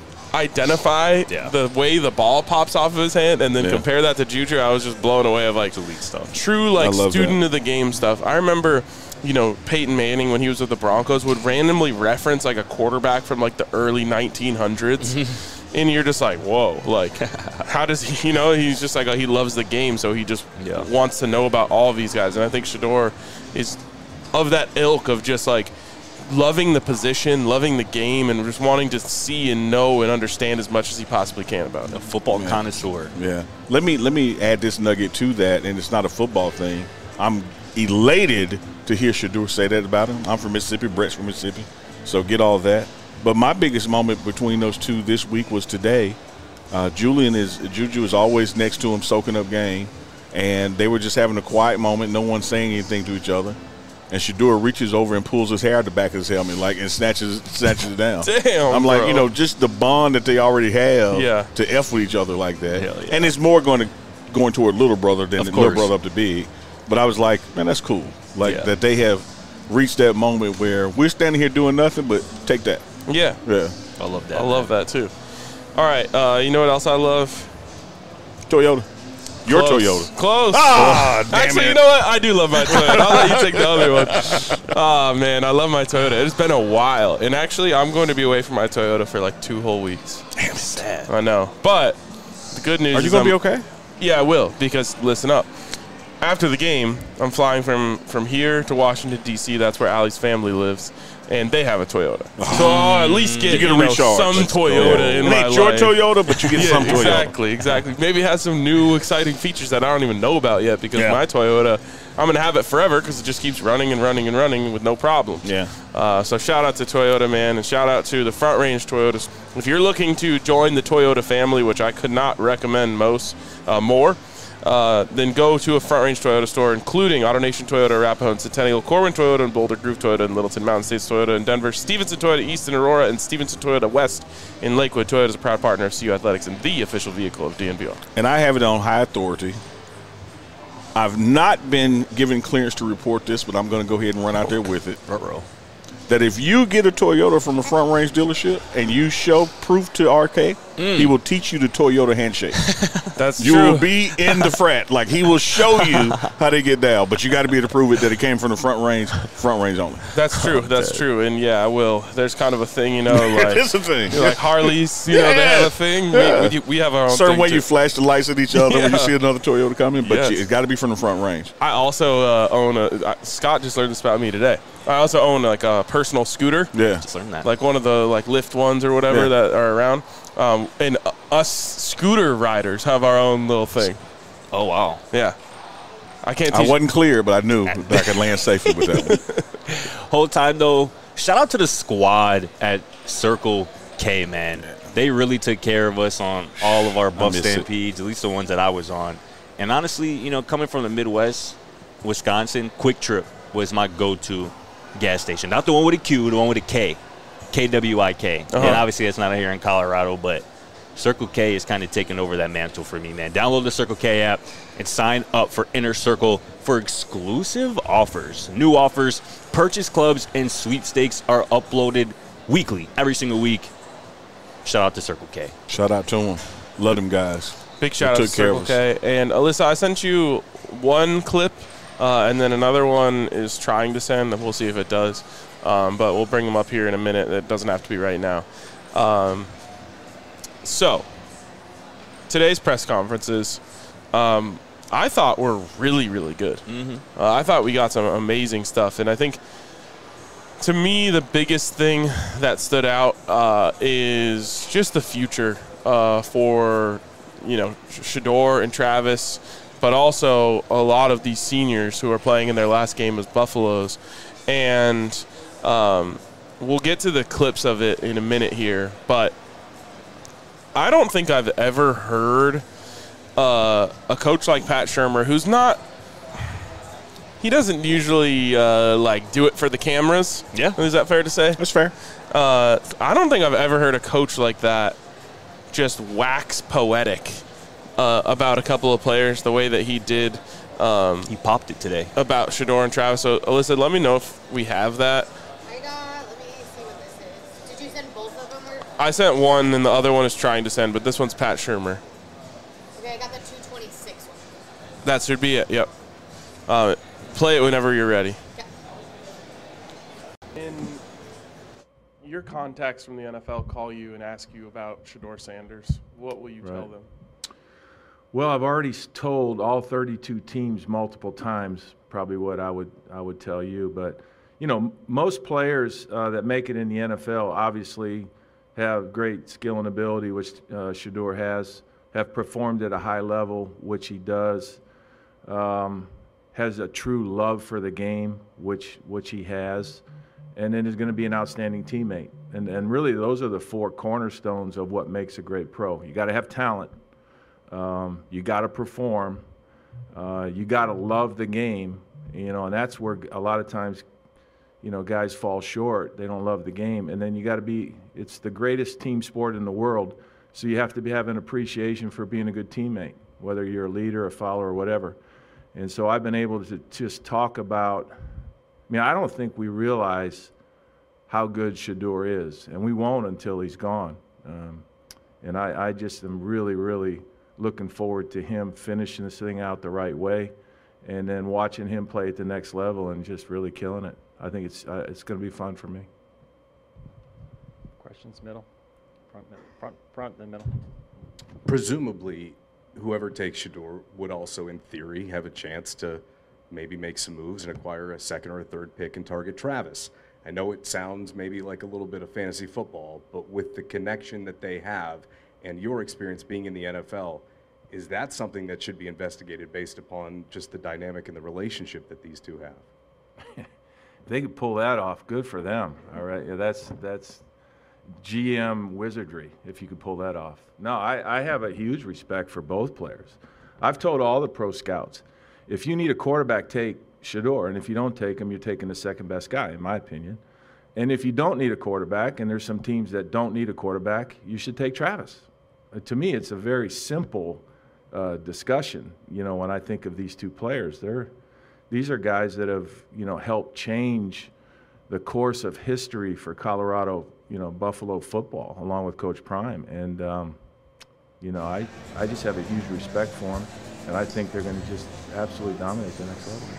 identify Yeah. the way the ball pops off of his hand and then Yeah. compare that to Juju, I was just blown away of like Elite stuff. true like I love student that. of the game stuff. I remember, you know, Peyton Manning when he was with the Broncos would randomly reference like a quarterback from like the early nineteen hundreds. And you're just like, whoa, like, how does he, you know, he's just like, oh, he loves the game, so he just Yeah. wants to know about all of these guys. And I think Shedeur is of that ilk of just like loving the position, loving the game, and just wanting to see and know and understand as much as he possibly can about it. A football connoisseur. Yeah. Let me let me add this nugget to that, and it's not a football thing. I'm elated to hear Shedeur say that about him. I'm from Mississippi. Brett's from Mississippi. So get all that. But my biggest moment between those two this week was today. Uh, Julian is Juju is always next to him, soaking up game, and they were just having a quiet moment. No one saying anything to each other. And Shedeur reaches over and pulls his hair out the back of his helmet, like, and snatches snatches it down. Damn, I'm like, bro. you know, just the bond that they already have Yeah. to F with each other like that. Hell yeah. And it's more going to going toward little brother than Of the little course. brother up to big. But I was like, man, that's cool. Like Yeah. that they have reached that moment where we're standing here doing nothing, but take that. Yeah, Yeah. I love that. I love that too. All right, uh, you know what else I love? Toyota. Your Close. Toyota. Close. Ah, damn Actually, it. you know what? I do love my Toyota. I'll let you take the other one. Oh, man, I love my Toyota. It's been a while. And actually, I'm going to be away from my Toyota for like two whole weeks. Damn, sad. I know. But the good news Are you is going to I'm- be okay? Yeah, I will, because listen up. After the game, I'm flying from, from here to Washington, D C That's where Allie's family lives. And they have a Toyota. So I'll at least get, You get a you know, recharge. some Toyota in It my ain't your life. Toyota, but you get Yeah, some Toyota. exactly, exactly. Maybe it has some new exciting features that I don't even know about yet because Yeah. my Toyota, I'm going to have it forever because it just keeps running and running and running with no problem. Yeah. Uh, so shout out to Toyota, man, and shout out to the Front Range Toyotas. If you're looking to join the Toyota family, which I could not recommend most uh, more, uh, then go to a Front Range Toyota store, including AutoNation Toyota, Arapahoe and Centennial, Corwin Toyota, and Boulder Groove Toyota, and Littleton Mountain States Toyota in Denver, Stevenson Toyota East in Aurora, and Stevenson Toyota West in Lakewood. Toyota is a proud partner of C U Athletics and the official vehicle of D N V R. And I have it on high authority. I've not been given clearance to report this, but I'm going to go ahead and run out there with it. Ruh-roh. That if you get a Toyota from a Front Range dealership and you show proof to R K, he will teach you the Toyota handshake. That's You true. will be in the frat. Like, he will show you how they get down, but you got to be able to prove it that it came from the Front Range, Front Range only. That's true. That's true. And yeah, I will. There's kind of a thing, you know, like It's a thing. like Harleys, you know, they have a thing. Yeah. We, we, we have our own Certain thing way too. you flash the lights at each other when you Yeah. see another Toyota coming, but Yes. you, it's got to be from the Front Range. I also uh, own a. Uh, Scott just learned this about me today. I also own like a personal scooter, Yeah. Just learned that. like one of the like Lyft ones or whatever Yeah. that are around. Um, and uh, us scooter riders have our own little thing. oh, wow. Yeah, I can't. I Teach wasn't clear, but I knew that I could land safely with that one. Whole time, though, shout out to the squad at Circle K, man. They really took care of us on all of our Buff miss it. Stampedes, at least the ones that I was on. And honestly, you know, coming from the Midwest, Wisconsin, Quick Trip was my go-to gas station. Not the one with a Q, the one with a K. K W I K. Uh-huh. And obviously that's not here in Colorado, but Circle K is kind of taking over that mantle for me, man. Download the Circle K app and sign up for Inner Circle for exclusive offers. New offers, purchase clubs, and sweepstakes are uploaded weekly, every single week. Shout out to Circle K. Shout out to them. Love them guys. Big shout out They to took care Circle of us. K. And Alyssa, I sent you one clip Uh, and then another one is trying to send. We'll see if it does. Um, but we'll bring them up here in a minute. It doesn't have to be right now. Um, so, today's press conferences, um, I thought were really, really good. Mm-hmm. Uh, I thought we got some amazing stuff. And I think, to me, the biggest thing that stood out uh, is just the future uh, for, you know, Shedeur and Travis, but also a lot of these seniors who are playing in their last game as Buffaloes. And um, we'll get to the clips of it in a minute here, but I don't think I've ever heard uh, a coach like Pat Shurmur, who's not – he doesn't usually, uh, like, do it for the cameras. Yeah. Is that fair to say? That's fair. Uh, I don't think I've ever heard a coach like that just wax poetic uh, about a couple of players the way that he did. Um, he popped it today. About Shedeur and Travis. So, Alyssa, let me know if we have that. I got, let me see what this is. Did you send both of them? Or? I sent one, and the other one is trying to send, but this one's Pat Shurmur. Okay, I got the two twenty-six one. That should be it, yep. Uh, play it whenever you're ready. Okay. In your contacts from the N F L call you and ask you about Shedeur Sanders, what will you Right. tell them? Well, I've already s- told all thirty-two teams multiple times probably what I would I would tell you. But, you know, m- most players uh, that make it in the N F L obviously have great skill and ability, which uh, Shedeur has, have performed at a high level, which he does, um, has a true love for the game, which which he has, and then is going to be an outstanding teammate. And, and really those are the four cornerstones of what makes a great pro. You got to have talent. Um, you got to perform. Uh, you got to love the game, you know, and that's where a lot of times, you know, guys fall short. They don't love the game. And then you got to be, it's the greatest team sport in the world. So you have to be, have an appreciation for being a good teammate, whether you're a leader, a follower, or whatever. And so I've been able to just talk about, I mean, I don't think we realize how good Shedeur is, and we won't until he's gone. Um, and I, I just am really, really looking forward to him finishing this thing out the right way, and then watching him play at the next level and just really killing it. I think it's uh, it's going to be fun for me. Questions, middle, front, middle, front, front, then middle. Presumably, whoever takes Shedeur would also, in theory, have a chance to maybe make some moves and acquire a second or a third pick and target Travis. I know it sounds maybe like a little bit of fantasy football, but with the connection that they have and your experience being in the N F L, is that something that should be investigated based upon just the dynamic and the relationship that these two have? If they could pull that off, good for them. All right, yeah, that's that's G M wizardry if you could pull that off. No, I, I have a huge respect for both players. I've told all the pro scouts, if you need a quarterback, take Shedeur, and if you don't take him, you're taking the second best guy, in my opinion. And if you don't need a quarterback, and there's some teams that don't need a quarterback, you should take Travis. Uh, to me, it's a very simple uh, discussion. You know, when I think of these two players, they're these are guys that have, you know, helped change the course of history for Colorado, you know, Buffalo football, along with Coach Prime. And, um, you know, I, I just have a huge respect for them, and I think they're going to just absolutely dominate the next level.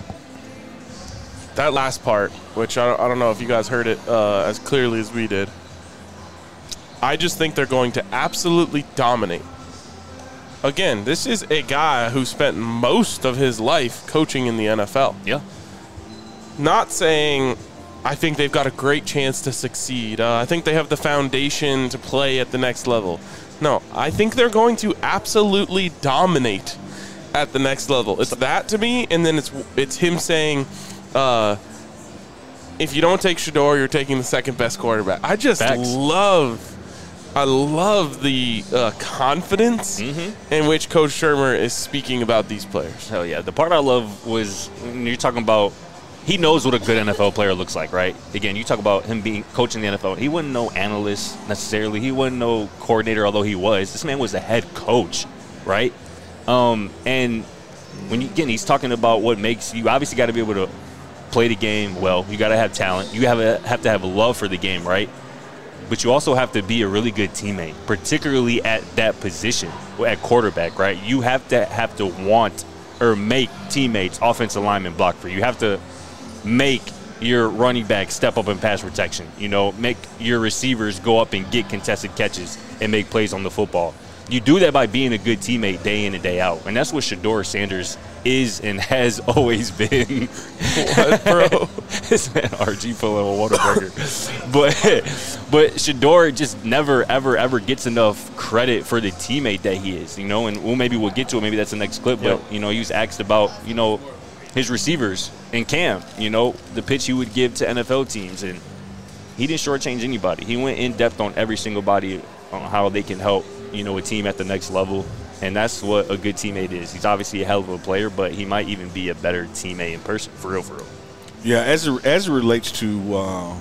That last part, which I don't, I don't know if you guys heard it uh, as clearly as we did, I just think they're going to absolutely dominate. Again, this is a guy who spent most of his life coaching in the N F L. Yeah. Not saying I think they've got a great chance to succeed. Uh, I think they have the foundation to play at the next level. No, I think they're going to absolutely dominate at the next level. It's that to me, and then it's it's him saying, uh, if you don't take Shedeur, you're taking the second best quarterback. I just Facts. love I love the uh, confidence Mm-hmm. in which Coach Shurmur is speaking about these players. Hell yeah. The part I love was when you're talking about he knows what a good N F L player looks like, right? Again, you talk about him being coaching the N F L. He wasn't no analyst necessarily. He wasn't no coordinator, although he was. This man was a head coach, right? Um, and when you, again, he's talking about what makes you obviously got to be able to play the game well. You got to have talent. You have a, have to have a love for the game, right? But you also have to be a really good teammate, particularly at that position, at quarterback, right? You have to have to want or make teammates, offensive linemen block for you. You have to make your running back step up in pass protection. You know, make your receivers go up and get contested catches and make plays on the football. You do that by being a good teammate day in and day out. And that's what Shedeur Sanders is and has always been. What, bro? This man R G pulling a Whataburger. but but Shedeur just never, ever, ever gets enough credit for the teammate that he is, you know, and we'll, maybe we'll get to it. Maybe that's the next clip. Yep. But, you know, he was asked about, you know, his receivers in camp, you know, the pitch he would give to N F L teams. And he didn't shortchange anybody. He went in depth on every single body on how they can help, you know, a team at the next level. And that's what a good teammate is. He's obviously a hell of a player, but he might even be a better teammate in person, for real, for real. Yeah, as it, as it relates to uh,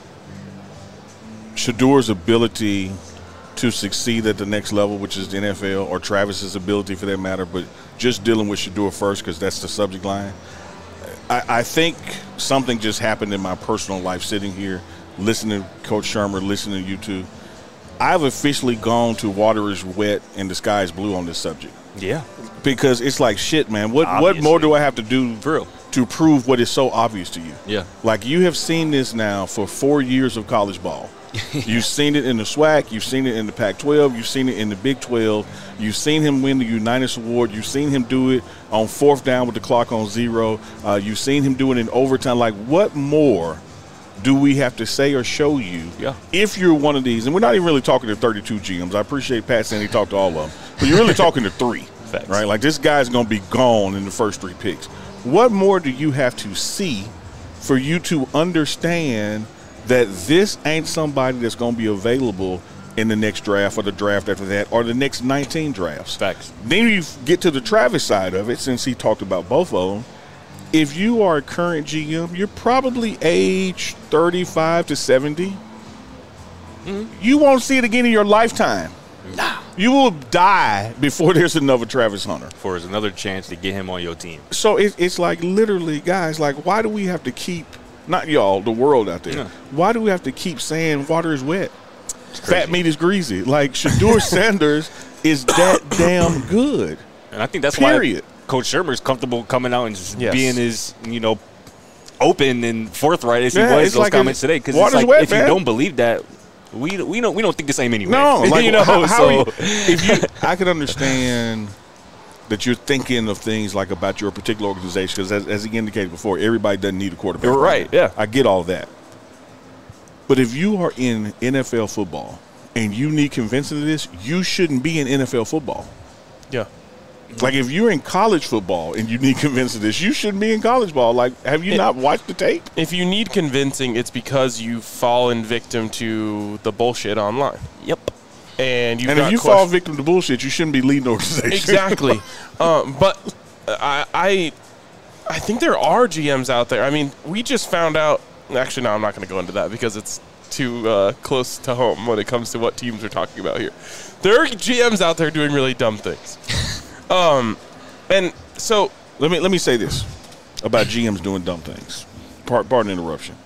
Shedeur's ability to succeed at the next level, which is the N F L, or Travis's ability for that matter, but just dealing with Shedeur first because that's the subject line. I, I think something just happened in my personal life sitting here, listening to Coach Shurmur, listening to you two. I've officially gone to water is wet and the sky is blue on this subject. Yeah. Because it's like, shit, man, what, Obviously. what more do I have to do For real. to prove what is so obvious to you? Yeah. Like, you have seen this now for four years of college ball. You've seen it in the SWAC. You've seen it in the Pac twelve. You've seen it in the Big twelve. You've seen him win the Unitas Award. You've seen him do it on fourth down with the clock on zero. Uh, you've seen him do it in overtime. Like, what more do we have to say or show you yeah. if you're one of these? And we're not even really talking to thirty-two G Ms. I appreciate Pat saying he talked to all of them. But you're really talking to three, Facts. right? Like, this guy's going to be gone in the first three picks. What more do you have to see for you to understand that this ain't somebody that's going to be available in the next draft or the draft after that or the next nineteen drafts? Facts. Then you get to the Travis side of it, since he talked about both of them. If you are a current G M, you're probably age thirty-five to seventy. Mm-hmm. You won't see it again in your lifetime. Nah. You will die before there's another Travis Hunter. For there's another chance to get him on your team. So it, it's like, literally, guys, like, why do we have to keep, not y'all, the world out there, Yeah. why do we have to keep saying water is wet? Fat meat is greasy. Like, Shedeur Sanders is that damn good. And I think that's Period. why Coach Shurmur's comfortable coming out and just Yes. being as, you know, open and forthright as he Yeah, was it's those like comments a- today. Because water's it's like, wet, if man. you don't believe that, we we don't we don't think the same anyway. No, like, you know, how, how so are you, if you, I can understand that you're thinking of things like about your particular organization, because as, as he indicated before, everybody doesn't need a quarterback. You're right, yeah. I get all that. But if you are in N F L football and you need convincing of this, you shouldn't be in N F L football. Yeah. Like, if you're in college football and you need convincing of this, you shouldn't be in college ball. Like, have you It- not watched the tape? If you need convincing, it's because you've fallen victim to the bullshit online. Yep. And you've And if got you question- fall victim to bullshit, you shouldn't be leading the organization. Exactly. um, but I, I I think there are G Ms out there. I mean, we just found out. Actually, no, I'm not going to go into that because it's too uh, close to home when it comes to what teams we're talking about here. There are G Ms out there doing really dumb things. um, and so Let me let me say this about G Ms doing dumb things. Part, pardon interruption.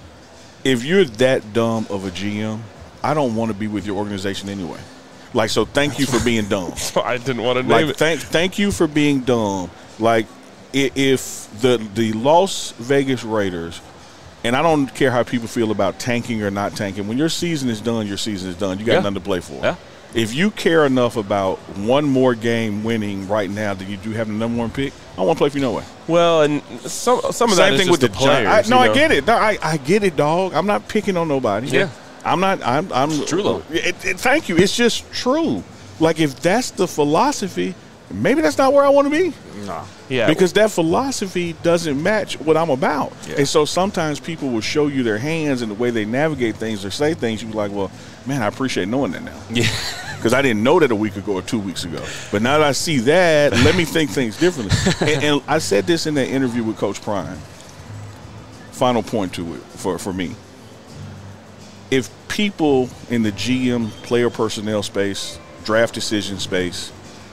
If you're that dumb of a G M, I don't want to be with your organization anyway. Like, so thank you for being dumb. I didn't want to name Like, it. thank thank you for being dumb. Like, i- if the the Las Vegas Raiders, and I don't care how people feel about tanking or not tanking, when your season is done, your season is done. You got Yeah. nothing to play for. Yeah. If you care enough about one more game winning right now than you do having the number one pick, I don't want to play for you no way. Well, and some some of that Same is thing just with the, the players. Giants. I, no, you know? I get it. No, I, I get it, dog. I'm not picking on nobody. Yeah. I'm not. I'm. I'm true, though. It, it, thank you. It's just true. Like, if that's the philosophy, maybe that's not where I want to be. Nah. Yeah. Because that philosophy doesn't match what I'm about. Yeah. And so sometimes people will show you their hands and the way they navigate things or say things. You're like, well, man, I appreciate knowing that now. Yeah. Because I didn't know that a week ago or two weeks ago. But now that I see that, let me think things differently. and, and I said this in that interview with Coach Prime. Final point to it for, for me. If people in the G M, player personnel space, draft decision space,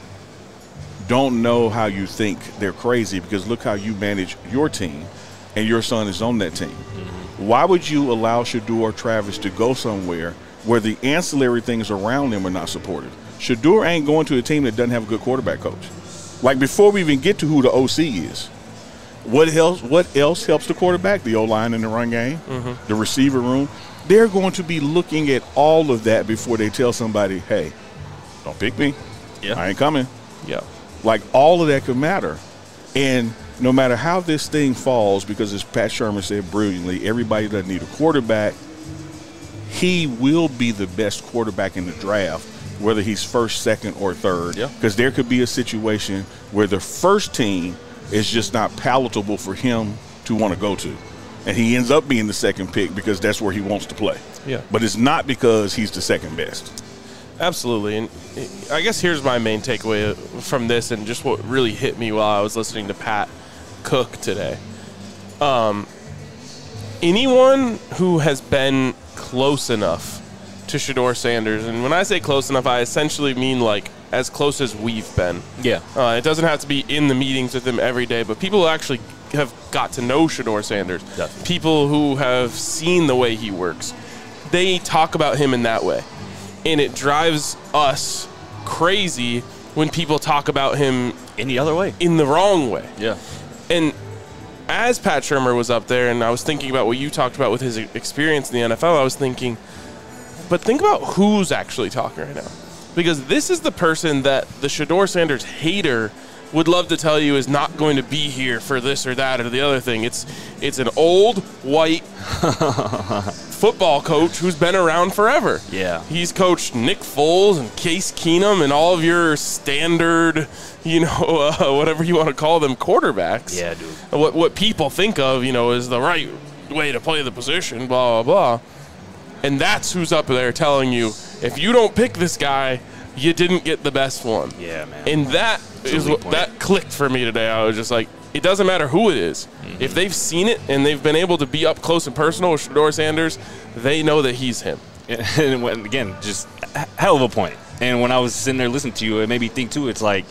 don't know how you think, they're crazy, because look how you manage your team, and your son is on that team. Mm-hmm. Why would you allow Shedeur or Travis to go somewhere where the ancillary things around them are not supported? Shedeur ain't going to a team that doesn't have a good quarterback coach. Like before we even get to who the O C is, what else? What else helps the quarterback? The O-line in the run game, mm-hmm. the receiver room. They're going to be looking at all of that before they tell somebody, "Hey, don't pick me. Yeah. I ain't coming." Yeah. Like all of that could matter, and no matter how this thing falls, because as Pat Shermer said brilliantly, everybody doesn't need a quarterback. He will be the best quarterback in the draft, whether he's first, second, or third. Yeah. Because there could be a situation where the first team is just not palatable for him to want to go to. And he ends up being the second pick because that's where he wants to play. Yeah. But it's not because he's the second best. Absolutely. And I guess here's my main takeaway from this and just what really hit me while I was listening to Pat Cook today. Um, anyone who has been close enough to Shedeur Sanders, and when I say close enough, I essentially mean like as close as we've been. Yeah. Uh, it doesn't have to be in the meetings with him every day, but people who actually have got to know Shedeur Sanders, Definitely. people who have seen the way he works, they talk about him in that way. And it drives us crazy when people talk about him Any other way. in the wrong way. Yeah. And as Pat Shermer was up there and I was thinking about what you talked about with his experience in the N F L, I was thinking, but think about who's actually talking right now. Because this is the person that the Shedeur Sanders hater would love to tell you is not going to be here for this or that or the other thing. It's it's an old, white football coach who's been around forever. Yeah. He's coached Nick Foles and Case Keenum and all of your standard, you know, uh, whatever you want to call them, quarterbacks. Yeah, dude. What, what people think of, you know, is the right way to play the position, blah, blah, blah. And that's who's up there telling you, if you don't pick this guy, you didn't get the best one. Yeah, man. And that It's a is weak what point. that clicked for me today. I was just like, it doesn't matter who it is. Mm-hmm. If they've seen it and they've been able to be up close and personal with Shedeur Sanders, they know that he's him. And when, again, just a hell of a point. And when I was sitting there listening to you, it made me think too. It's like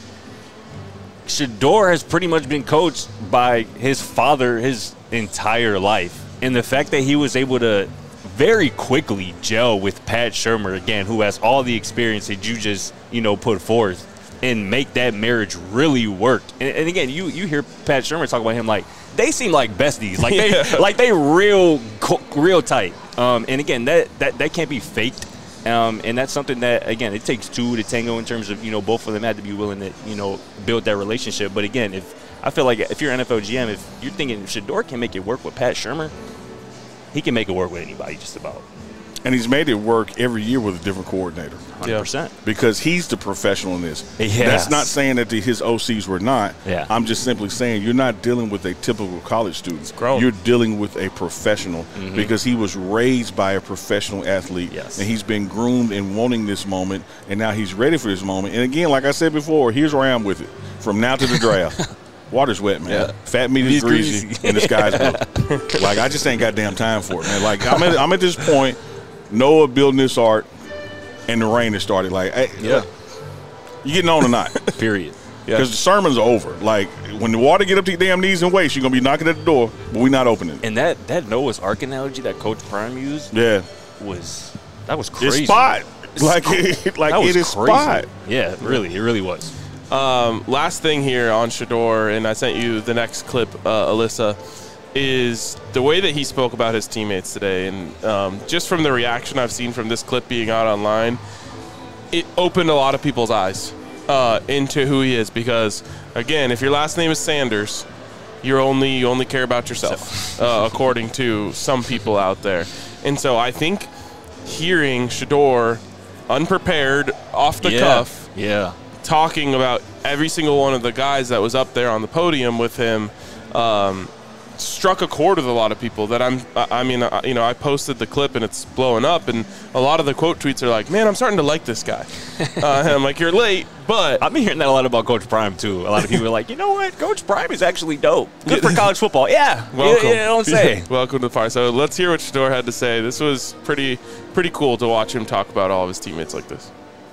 Shedeur has pretty much been coached by his father his entire life, and the fact that he was able to very quickly gel with Pat Shermer, again, who has all the experience that you just, you know, put forth, and make that marriage really work. And, and again, you you hear Pat Shermer talk about him like they seem like besties, like they Yeah. like they real co- real tight. Um, and again, that that that can't be faked. Um, and that's something that, again, it takes two to tango in terms of, you know, both of them had to be willing to, you know, build that relationship. But again, if I feel like if you're an N F L G M, if you're thinking Shedeur can make it work with Pat Shermer, he can make it work with anybody just about. And he's made it work every year with a different coordinator. one hundred percent. Because he's the professional in this. Yes. That's not saying that the, his O Cs were not. Yeah. I'm just simply saying you're not dealing with a typical college student. grown. You're dealing with a professional Mhm. because he was raised by a professional athlete. Yes. And he's been groomed in wanting this moment, and now he's ready for this moment. And again, like I said before, here's where I am with it. From now to the draft. Water's wet, man. Yeah. Fat meat is He's greasy, greasy. and the sky's blue. Like, I just ain't got damn time for it, man. Like, I'm at, I'm at this point, Noah building this ark, and the rain has started. Like, hey, Yeah. you getting on or not? Period. Because the sermons are over. Like, when the water get up to your damn knees and waist, you're going to be knocking at the door, but we not opening. And that, that Noah's Ark analogy that Coach Prime used Yeah. was that was crazy. It's spot. Like, it, like That was it is crazy. spot. Yeah, really, it really was. Um, last thing here on Shedeur, and I sent you the next clip, uh, Alyssa, is the way that he spoke about his teammates today. And um, just from the reaction I've seen from this clip being out online, it opened a lot of people's eyes uh, into who he is. Because, again, if your last name is Sanders, you're only you only care about yourself, uh, according to some people out there. And so I think hearing Shedeur unprepared, off the yeah. cuff, Yeah. talking about every single one of the guys that was up there on the podium with him, um, struck a chord with a lot of people. That I'm, I mean, I, you know, I posted the clip and it's blowing up, and a lot of the quote tweets are like, "Man, I'm starting to like this guy." uh, and I'm like, "You're late," but I've been hearing that a lot about Coach Prime too. A lot of people are like, you know what, Coach Prime is actually dope. Good for college football. Yeah. welcome. You, you don't say. Welcome to the fire. So let's hear what Shedeur had to say. This was pretty, pretty cool to watch him talk about all of his teammates like this.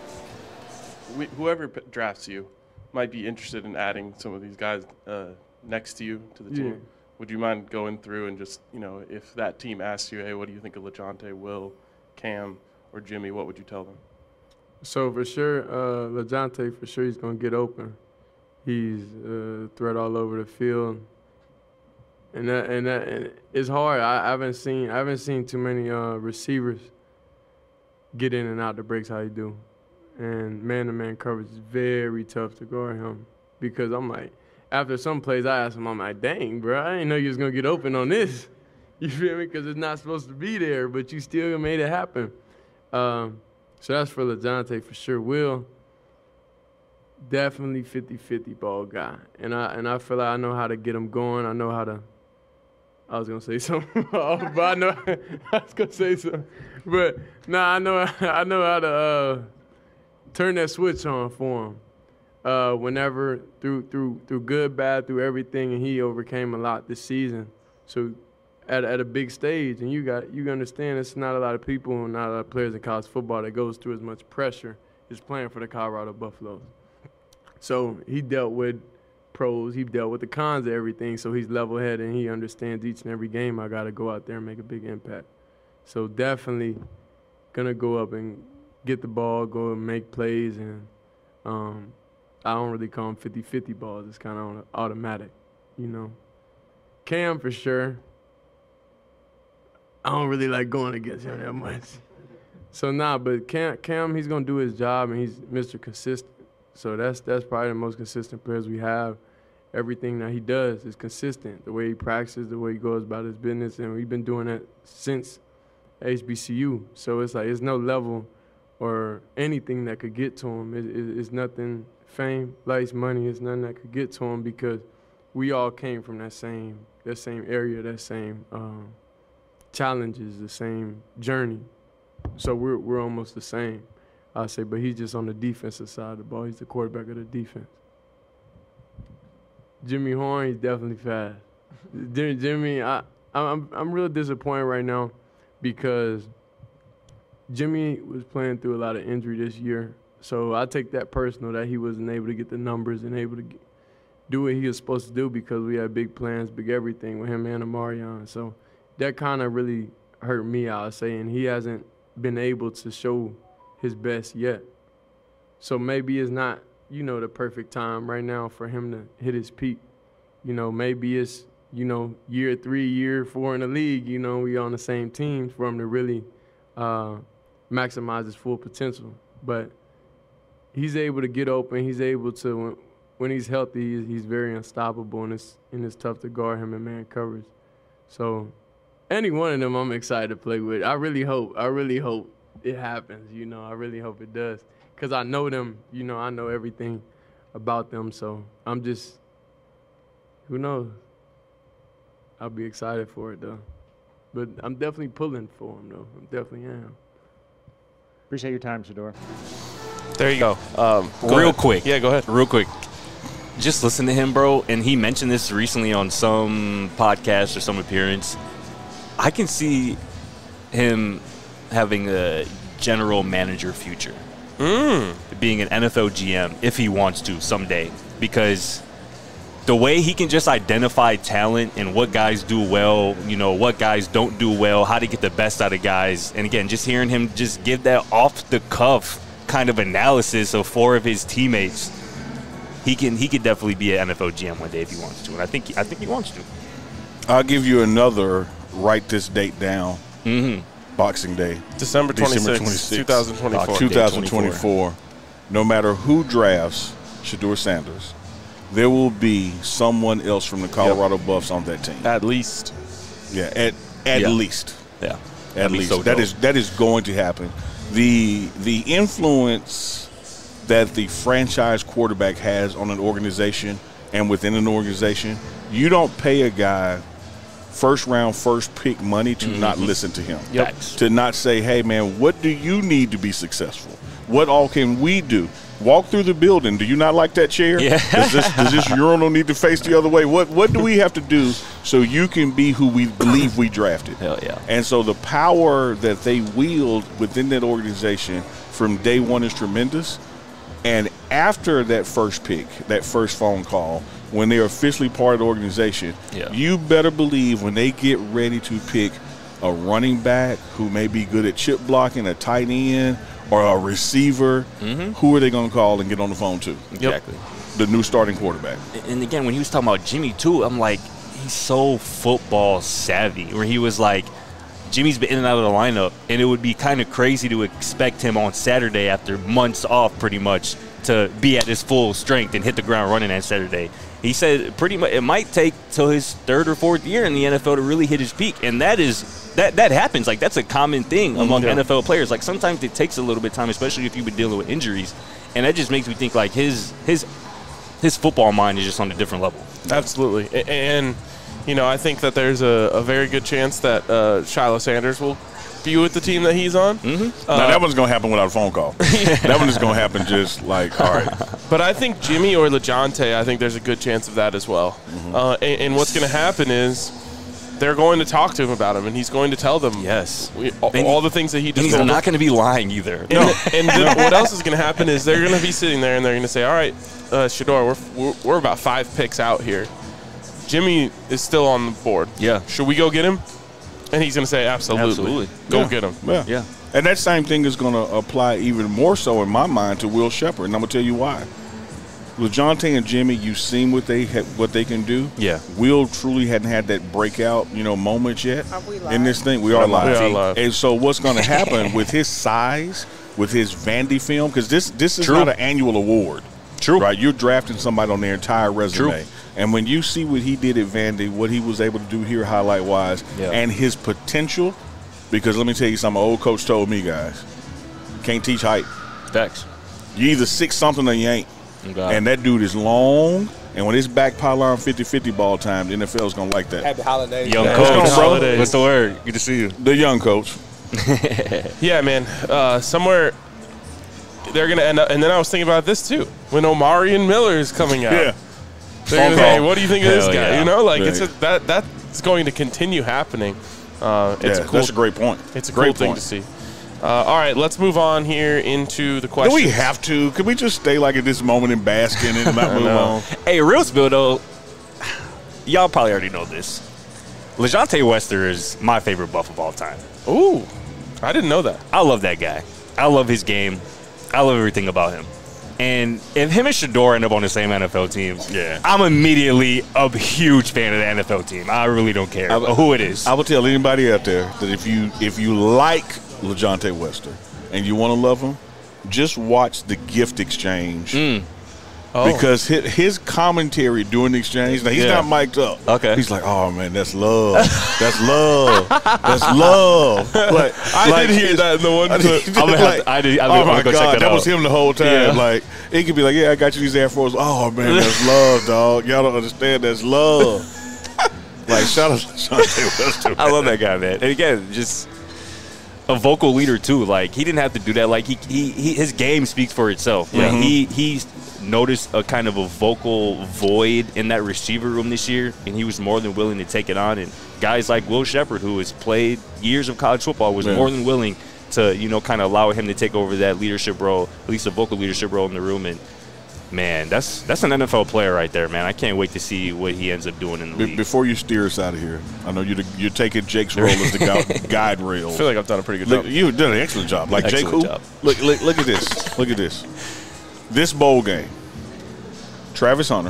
We, whoever p- drafts you might be interested in adding some of these guys uh, next to you to the Yeah. team. Would you mind going through and just, you know, if that team asks you, hey, what do you think of LeJohntay, Will, Cam, or Jimmy, what would you tell them? So for sure, uh, LeJohntay, for sure he's going to get open. He's a threat all over the field. And that, and that, and it's hard. I, I haven't seen I haven't seen too many uh, receivers get in and out the breaks how he do. And man-to-man coverage is very tough to guard him because I'm like, after some plays I ask him, I'm like, dang, bro, I didn't know you was gonna get open on this. You feel me? Because it's not supposed to be there, but you still made it happen. Um, so that's for LaJohntay for sure. Will, definitely fifty-fifty ball guy. And I and I feel like I know how to get him going. I know how to I was gonna say something, but I know I was gonna say something. But nah, I know I know how to uh, turn that switch on for him. Uh, whenever through through through good, bad, through everything, and he overcame a lot this season. So at at a big stage, and you got you understand it's not a lot of people and not a lot of players in college football that goes through as much pressure as playing for the Colorado Buffaloes. So he dealt with pros, he dealt with the cons of everything, so he's level-headed and he understands each and every game I got to go out there and make a big impact. So definitely going to go up and get the ball, go and make plays, and um, I don't really call them fifty-fifty balls. It's kind of automatic, you know. Cam, for sure. I don't really like going against him that much. So, nah, but Cam, Cam he's going to do his job, and he's Mister Consistent. So that's that's probably the most consistent players we have. Everything that he does is consistent. The way he practices, the way he goes about his business, and we've been doing that since H B C U. So it's like it's no level or anything that could get to him. It, it, it's nothing, fame, lights, money, it's nothing that could get to him because we all came from that same that same area, that same um, challenges, the same journey. So we're we're almost the same. I say, but he's just on the defensive side of the ball. He's the quarterback of the defense. Jimmy Horn, he's definitely fast. Jimmy, I, I'm I'm real disappointed right now because Jimmy was playing through a lot of injury this year. So I take that personal that he wasn't able to get the numbers and able to get, do what he was supposed to do because we had big plans, big everything with him and Amarion. So that kind of really hurt me, I would say, and he hasn't been able to show his best yet. So maybe it's not, you know, the perfect time right now for him to hit his peak. You know, maybe it's, you know, year three, year four in the league, you know, we on the same team for him to really uh, maximize his full potential. But he's able to get open. He's able to, when, when he's healthy, he's, he's very unstoppable, and it's, and it's tough to guard him in man coverage. So any one of them I'm excited to play with. I really hope, I really hope it happens, you know. I really hope it does because I know them, you know, I know everything about them. So I'm just, who knows? I'll be excited for it, though. But I'm definitely pulling for him, though. I definitely am. Appreciate your time, Shedeur. There you go. Um, go Real ahead. quick. Yeah, go ahead. Real quick. Just listen to him, bro. And he mentioned this recently on some podcast or some appearance. I can see him having a general manager future. Mm. Being an N F L G M if he wants to someday. Because the way he can just identify talent and what guys do well, you know, what guys don't do well, how to get the best out of guys. And again, just hearing him just give that off the cuff kind of analysis of four of his teammates, he can he could definitely be an N F L G M one day if he wants to. And I think I think he wants to. I'll give you another, write this date down. Mm-hmm. Boxing Day. December twenty-sixth, twenty twenty-four. twenty twenty-four. No matter who drafts Shedeur Sanders, there will be someone else from the Colorado yep. Buffs on that team. At least. Yeah, at at yeah. least. Yeah. At That'd least. So that is that is going to happen. The the influence that the franchise quarterback has on an organization and within an organization, you don't pay a guy first round, first pick money to mm-hmm. not listen to him. Yep. To not say, hey, man, what do you need to be successful? What all can we do? Walk through the building. Do you not like that chair? Yeah. Does this, does this urinal need to face the other way? What What do we have to do so you can be who we believe we drafted? Hell yeah. And so the power that they wield within that organization from day one is tremendous. And after that first pick, that first phone call, when they're officially part of the organization, yeah. you better believe when they get ready to pick a running back who may be good at chip blocking, a tight end, or a receiver, mm-hmm. who are they going to call and get on the phone to? Exactly. the new starting quarterback. And again, when he was talking about Jimmy too, I'm like, he's so football savvy. Where he was like, Jimmy's been in and out of the lineup, and it would be kind of crazy to expect him on Saturday after months off, pretty much, to be at his full strength and hit the ground running on Saturday. He said pretty much it might take till his third or fourth year in the N F L to really hit his peak, and that is that that happens. Like, that's a common thing among yeah. N F L players. Like, sometimes it takes a little bit of time, especially if you've been dealing with injuries, and that just makes me think like his his his football mind is just on a different level. Absolutely, and you know, I think that there's a, a very good chance that uh, Shiloh Sanders will be with the team that he's on. Mm-hmm. Uh, now, that one's going to happen without a phone call. That one is going to happen just like, all right. But I think Jimmy or LeJounte, I think there's a good chance of that as well. Mm-hmm. uh, and, and what's going to happen is they're going to talk to him about him, and he's going to tell them yes we, all, all the things that he just and he's told not them. going to be lying either. And, no. and then what else is going to happen is they're going to be sitting there, and they're going to say, all right, uh, Shedeur, we're, we're, we're about five picks out here. Jimmy is still on the board. Yeah. Should we go get him? And he's going to say, absolutely. Absolutely. Go yeah. get him. Yeah. yeah. And that same thing is going to apply even more so in my mind to Will Sheppard, and I'm going to tell you why. LeJounte and Jimmy, you've seen what they ha- what they can do. Yeah. Will truly hadn't had that breakout, you know, moment yet Are we live? in this thing. We are live. We are live. And so what's going to happen with his size, with his Vandy film, because this this is True. not an annual award. True. Right? You're drafting somebody on their entire resume. True. And when you see what he did at Vandy, what he was able to do here highlight-wise, yeah. and his potential, because let me tell you something, my old coach told me, guys, can't teach height. Facts. You either six something or you ain't. Okay. And that dude is long, and when it's back pylon fifty-fifty ball time, the N F L is going to like that. Happy holidays. Young Yeah. coach. Happy holidays. What's the word? Good to see you. The young coach. Yeah, man. Uh, somewhere they're going to end up. And then I was thinking about this, too. When Omarion Miller is coming out. Yeah. They're going to say, what do you think of this Hell guy? yeah. You know, like, Yeah. it's a, that that's going to continue happening. Uh, it's Yeah, a cool, that's a great point. It's a Great cool thing point. to see. Uh, all right, let's move on here into the questions. Do we have to? Could we just stay like at this moment and bask in it and not move on? Hey, real spill, though, y'all probably already know this. LeJounte Wester is my favorite Buff of all time. Ooh, I didn't know that. I love that guy. I love his game. I love everything about him. And if him and Shedeur end up on the same N F L team, Yeah. I'm immediately a huge fan of the N F L team. I really don't care I- who it is. I will tell anybody out there that if you if you like LeJounte Wester and you want to love him, just watch the gift exchange. Mm. Oh. Because his, his commentary during the exchange, now he's Yeah. not mic'd up. Okay. He's like, oh, man, that's love. That's love. That's love. Like, I like did hear it's- that in the one clip. I'm gonna have to- I did- I oh, did- my I'm gonna go check God. that That was out. him the whole time. Yeah. Like, he could be like, yeah, I got you these Air Force. Oh, man, that's love, dog. Y'all don't understand. That's love. Like, shout out to LeJounte Wester. I love that guy, man. And again, just a vocal leader too. Like, he didn't have to do that. Like, he, he, he his game speaks for itself. Like, Mhm. he he's noticed a kind of a vocal void in that receiver room this year, and he was more than willing to take it on. And guys like Will Sheppard, who has played years of college football, was Yeah. more than willing to, you know, kind of allow him to take over that leadership role, at least a vocal leadership role in the room. And man, that's that's an N F L player right there, man. I can't wait to see what he ends up doing in the Be- league. Before you steer us out of here, I know you're, the, you're taking Jake's role as the gu- guide rail. I feel like I've done a pretty good Look, job. you've done an excellent job. Like Jake, Excellent who? job. Look, look, look at this. Look at this. This bowl game. Travis Hunter,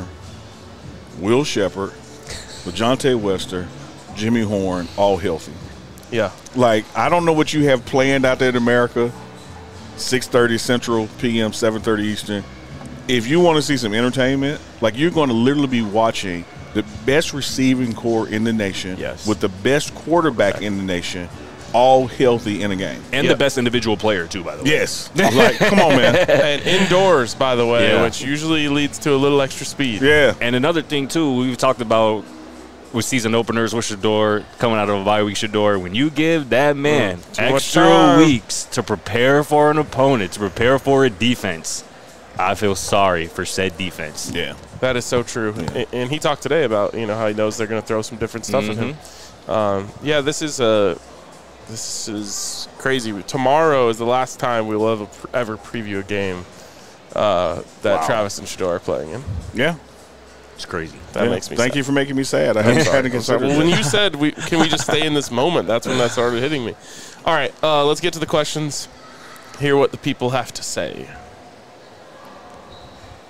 Will Sheppard, LeJounte Wester, Jimmy Horn, all healthy. Yeah. Like, I don't know what you have planned out there in America. six thirty Central P M, seven thirty Eastern. If you want to see some entertainment, like, you're going to literally be watching the best receiving core in the nation Yes. with the best quarterback in the nation, all healthy in a game. and Yeah. the best individual player too, by the way. Yes. Like, come on, man. And indoors, by the way, Yeah. which usually leads to a little extra speed. Yeah. And another thing too, we've talked about with season openers with Shedeur coming out of a bye week. Shedeur, when you give that man Too much extra time. weeks to prepare for an opponent, to prepare for a defense, I feel sorry for said defense. Yeah. That is so true. And, and he talked today about, you know, how he knows they're going to throw some different stuff at him. Um, yeah, this is a this is crazy. Tomorrow is the last time we'll ever ever preview a game uh, that Wow. Travis and Shedeur are playing in. Yeah. It's crazy. That Yeah. makes me Thank sad. you for making me sad. I hadn't, Sorry. hadn't I'm sorry. considered Well, when that. you said, we, can we just stay in this moment, that's when that started hitting me. All right, uh, let's get to the questions. Hear what the people have to say.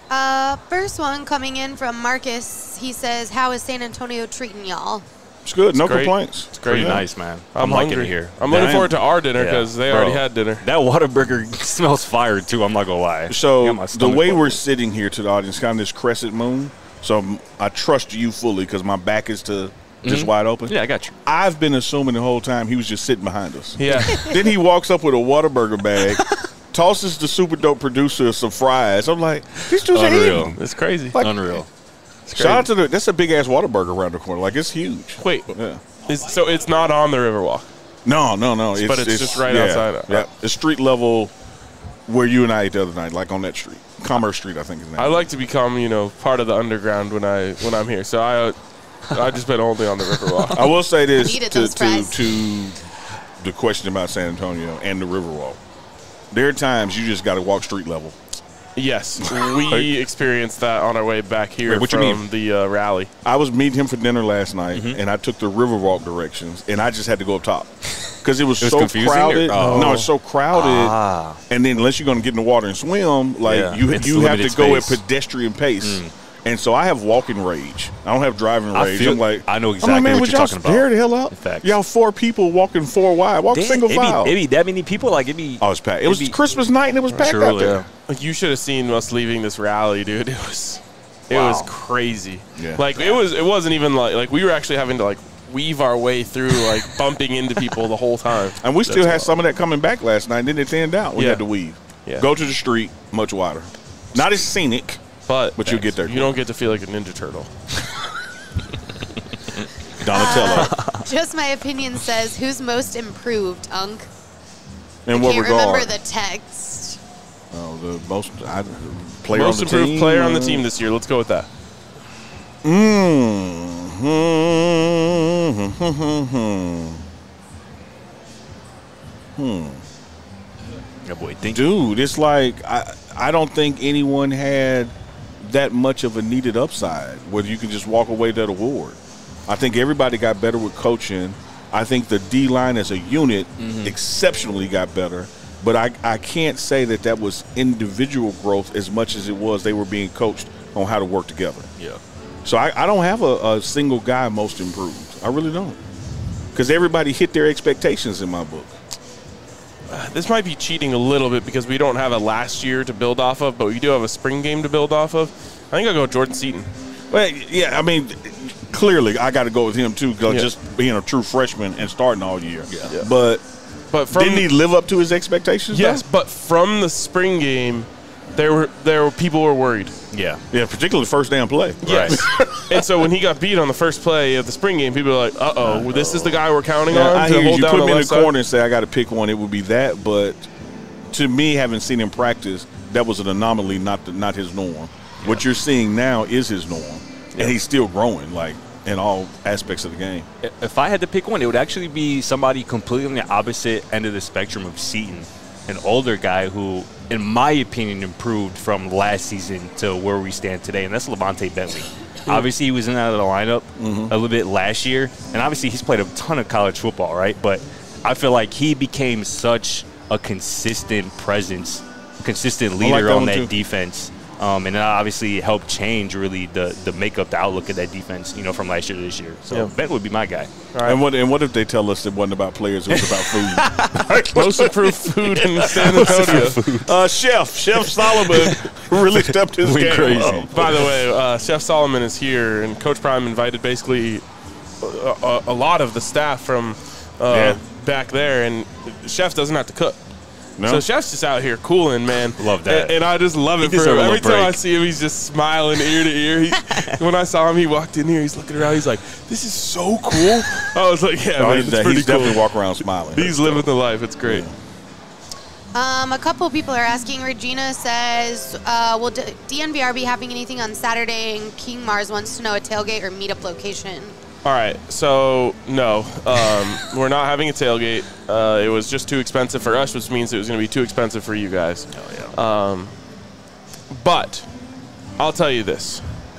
Uh, first one coming in from Marcus. He says, "How is San Antonio treating y'all?" It's good. It's no great. complaints. It's pretty Yeah. nice, man. I'm, I'm, liking hungry it here. I'm looking Damn. forward to our dinner because Yeah. they Bro, already had dinner. That Whataburger smells fire too. I'm not gonna lie. So Got my the stomach way we're bubbling. sitting here to the audience, kind of this crescent moon. So m- I trust you fully because my back is to just Mhm. wide open. Yeah, I got you. I've been assuming the whole time he was just sitting behind us. Yeah. Then he walks up with a Whataburger bag, tosses the super dope producer some fries. I'm like, these dudes are Unreal. eating. It's crazy. Like, Unreal. Shout out to the. That's a big ass Whataburger around the corner. Like it's huge. Wait, Yeah. is, so it's not on the Riverwalk? No, no, no. But it's just right yeah, outside. Yeah, it's street level where you and I ate the other night, like on that street, Commerce Street, I think is the name. I like to become, you know, part of the underground when I when I'm here. So I, uh, I just been only on the Riverwalk. I will say this Needed to, those to fries. to the question about San Antonio and the Riverwalk. There are times you just got to walk street level. Yes, we experienced that on our way back here Wait, what you from mean? the uh, rally. I was meeting him for dinner last night, Mm-hmm. and I took the Riverwalk directions, and I just had to go up top because it was, It was so confusing, or- crowded. oh. No, it's so crowded. Ah. And then unless you're going to get in the water and swim, like Yeah, you it's you have to limited go at space. pedestrian pace. Mm. And so I have walking rage. I don't have driving I rage. feel- I'm like, I know I'm exactly like, man, what would you're y'all talking about. Hurry the hell up. In fact. Y'all four people walking four wide. Walk Damn, single it be, file. it be that many people. Like it be. Oh, it's packed. It it was be- Christmas night and it was packed Sure, out there. yeah. Like, you should have seen us leaving this rally, dude. It was, it Wow. was crazy. Yeah. Like it was, it wasn't even like like we were actually having to like weave our way through, like bumping into people the whole time. And we still That's had wild. some of that coming back last night. Then it thinned out. We Yeah. had to weave. Yeah. Go to the street, much wider. Not as scenic, But but you'll get there. you don't get to feel like a Ninja Turtle. Donatello. Just my opinion says, "Who's most improved, Unk?" In I what can't regard? remember the text. Oh, the most I, player Most on the improved team. player on the team this year. Let's go with that. Mm. Hmm. Yeah, boy, think. Dude, it's like I I don't think anyone had that much of a needed upside where you can just walk away with that award. I think everybody got better with coaching. I think the D line as a unit Mm-hmm. exceptionally got better. But I, I can't say that that was individual growth as much as it was they were being coached on how to work together. Yeah. So I, I don't have a, a single guy most improved. I really don't. Because everybody hit their expectations in my book. This might be cheating a little bit because we don't have a last year to build off of, but we do have a spring game to build off of. I think I'll go with Jordan Seaton. Well, yeah, I mean, clearly I got to go with him too, because Yeah. just being a true freshman and starting all year. Yeah. Yeah. But But from didn't he live up to his expectations? yes, though? but from the spring game, there were there were people were worried. Yeah. Yeah, particularly first damn play. Yes. and so when he got beat on the first play of the spring game, people were like, "Uh oh, well, this is the guy we're counting Yeah, on I to hear you. hold You down put the him in the left side." corner and say I got to pick one. It would be that. But to me, having seen him practice, that was an anomaly, not the, not his norm. What you're seeing now is his norm, and he's still growing, like in all aspects of the game. If I had to pick one, it would actually be somebody completely on the opposite end of the spectrum of Seaton, an older guy who, in my opinion, improved from last season to where we stand today, and that's Levante Bentley. Obviously, he was in and out of the lineup Mm-hmm. a little bit last year, and obviously he's played a ton of college football, right? But I feel like he became such a consistent presence, consistent leader like that on one that too. defense. Um, and that obviously helped change really the, the makeup, the outlook of that defense, you know, from last year to this year. So Yeah. Ben would be my guy. And what and what if they tell us it wasn't about players, it was about food? Most improved food in San Antonio. uh, Chef, Chef Solomon really stepped his Went game crazy. up. By the way, uh, Chef Solomon is here, and Coach Prime invited basically a, a, a lot of the staff from uh, Yeah. back there, and Chef doesn't have to cook. No? So Chef's just out here cooling, man. Love that. And, and I just love He it for him. deserve a little Every time I break. see him, he's just smiling ear to ear. He, when I saw him, he walked in here. He's looking around. He's like, "This is so cool." I was like, "Yeah, No, man, he's, it's he's pretty definitely cool." walk around smiling. He's living the life. It's great. Um, a couple people are asking. Regina says, uh, "Will D- DNVR be having anything on Saturday?" And King Mars wants to know a tailgate or meetup location. All right, so no, um, we're not having a tailgate. Uh, it was just too expensive for us, which means it was going to be too expensive for you guys. Oh, yeah. Um, but I'll tell you this.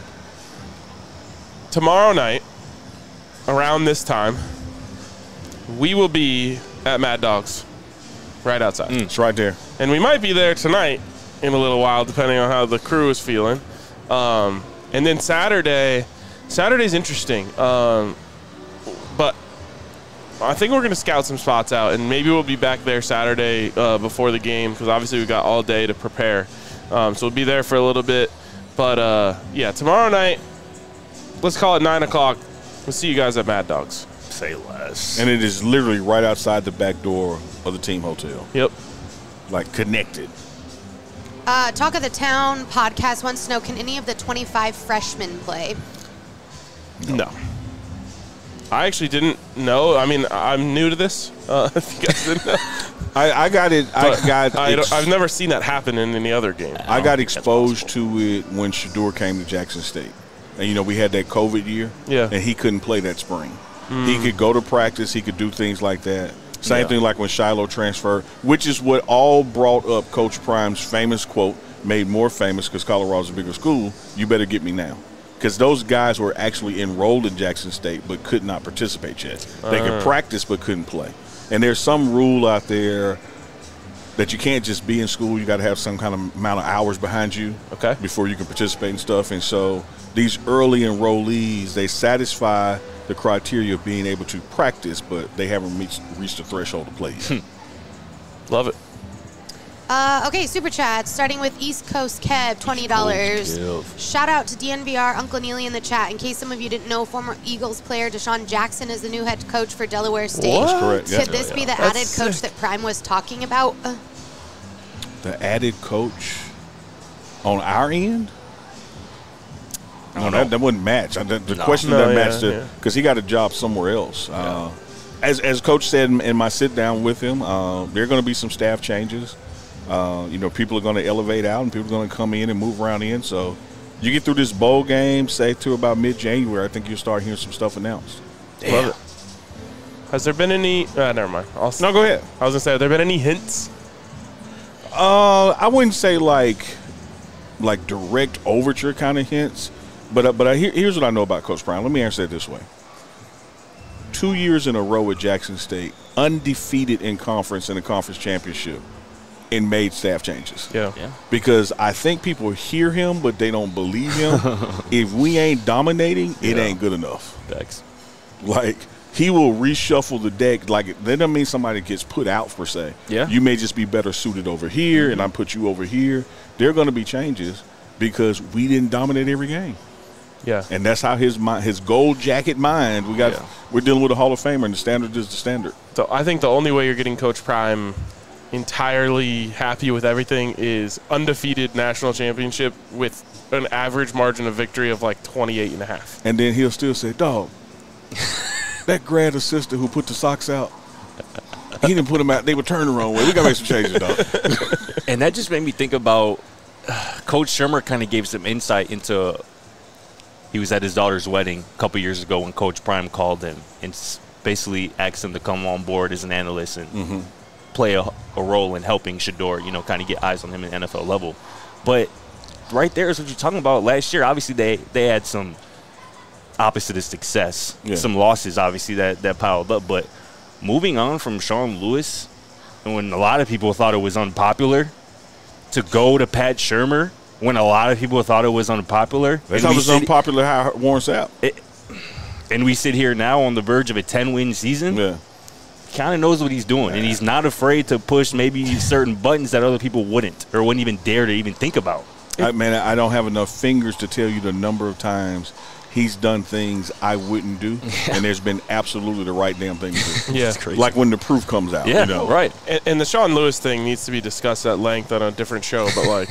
Tomorrow night, around this time, we will be at Mad Dogs, right outside. It's right there. And we might be there tonight in a little while, depending on how the crew is feeling. Um, and then Saturday, Saturday's interesting. Um, but I think we're going to scout some spots out, and maybe we'll be back there Saturday uh, before the game because obviously we got all day to prepare. Um, so we'll be there for a little bit. But, uh, yeah, tomorrow night, let's call it nine o'clock. We'll see you guys at Mad Dogs. Say less. And it is literally right outside the back door of the team hotel. Yep. Like connected. Uh, Talk of the Town podcast wants to know, can any of the twenty-five freshmen play? No. I actually didn't know. I mean, I'm new to this. Uh, if you guys didn't know. I, I got it. But I got. I ex- I've never seen that happen in any other game. I got exposed to it when Shedeur came to Jackson State. And, you know, we had that COVID year. Yeah. And he couldn't play that spring. Mm. He could go to practice. He could do things like that. Same Yeah. thing like when Shiloh transferred, which is what all brought up Coach Prime's famous quote, made more famous because Colorado's a bigger school, you better get me now. Because those guys were actually enrolled in Jackson State but could not participate yet. They Uh. could practice but couldn't play. And there's some rule out there that you can't just be in school. You got to have some kind of amount of hours behind you okay. before you can participate in stuff. And so these early enrollees, they satisfy the criteria of being able to practice, but they haven't reached, reached the threshold to play yet. Love it. Uh, okay, Super Chat, starting with East Coast Kev, twenty dollars. Shout out to D N V R, Uncle Neely in the chat. In case some of you didn't know, former Eagles player Deshaun Jackson is the new head coach for Delaware State. What? That's correct, yeah. Could this be the That's added coach sick. that Prime was talking about? Uh, The added coach on our end? No, that, that wouldn't match. I- The, the No. question No, that yeah, matched yeah. because he got a job somewhere else. Uh, as as Coach said in, in my sit down with him, uh, there are going to be some staff changes. Uh, you know, people are going to elevate out and people are going to come in and move around in. So you get through this bowl game, say to about mid January, I think you'll start hearing some stuff announced. Love it. Has there been any? Uh, never mind. I'll, No, go ahead. I was gonna say, have there been any hints? Uh, I wouldn't say like like direct overture kind of hints, but uh, but I, here, here's what I know about Coach Prime. Let me answer it this way: two years in a row at Jackson State, undefeated in conference in the conference championship, and made staff changes. Yeah, yeah. Because I think people hear him, but they don't believe him. If we ain't dominating, it Yeah. ain't good enough. Thanks. Like, he will reshuffle the deck. Like, that doesn't mean somebody gets put out, per se. Yeah. You may just be better suited over here, and I put you over here. There are going to be changes because we didn't dominate every game. Yeah. And that's how his mind, his gold jacket mind, we got, Yeah. we're dealing with a Hall of Famer, and the standard is the standard. So I think the only way you're getting Coach Prime entirely happy with everything is undefeated national championship with an average margin of victory of like twenty-eight and a half. And then he'll still say, dog, that grad assistant who put the socks out, he didn't put them out. They were turned the wrong way. We got to make some changes, dog. And that just made me think about uh, Coach Shermer kind of gave some insight into he was at his daughter's wedding a couple years ago when Coach Prime called him and s- basically asked him to come on board as an analyst and Mm-hmm. play a, a role in helping Shedeur, you know, kind of get eyes on him at N F L level. But right there is what you're talking about. Last year, obviously, they, they had some opposite of success, Yeah. some losses, obviously, that, that piled up. But moving on from Sean Lewis, when a lot of people thought it was unpopular, to go to Pat Shermer when a lot of people thought it was unpopular. They and thought we it was sit- unpopular how Warren Sapp. it- and we sit here now on the verge of a ten-win season. Yeah. Kind of knows what he's doing, and he's not afraid to push maybe certain buttons that other people wouldn't or wouldn't even dare to even think about. I, man, I don't have enough fingers to tell you the number of times he's done things I wouldn't do, and there's been absolutely the right damn thing to do. Yeah. Like when the proof comes out. Yeah, you know? right. And, and the Sean Lewis thing needs to be discussed at length on a different show, but like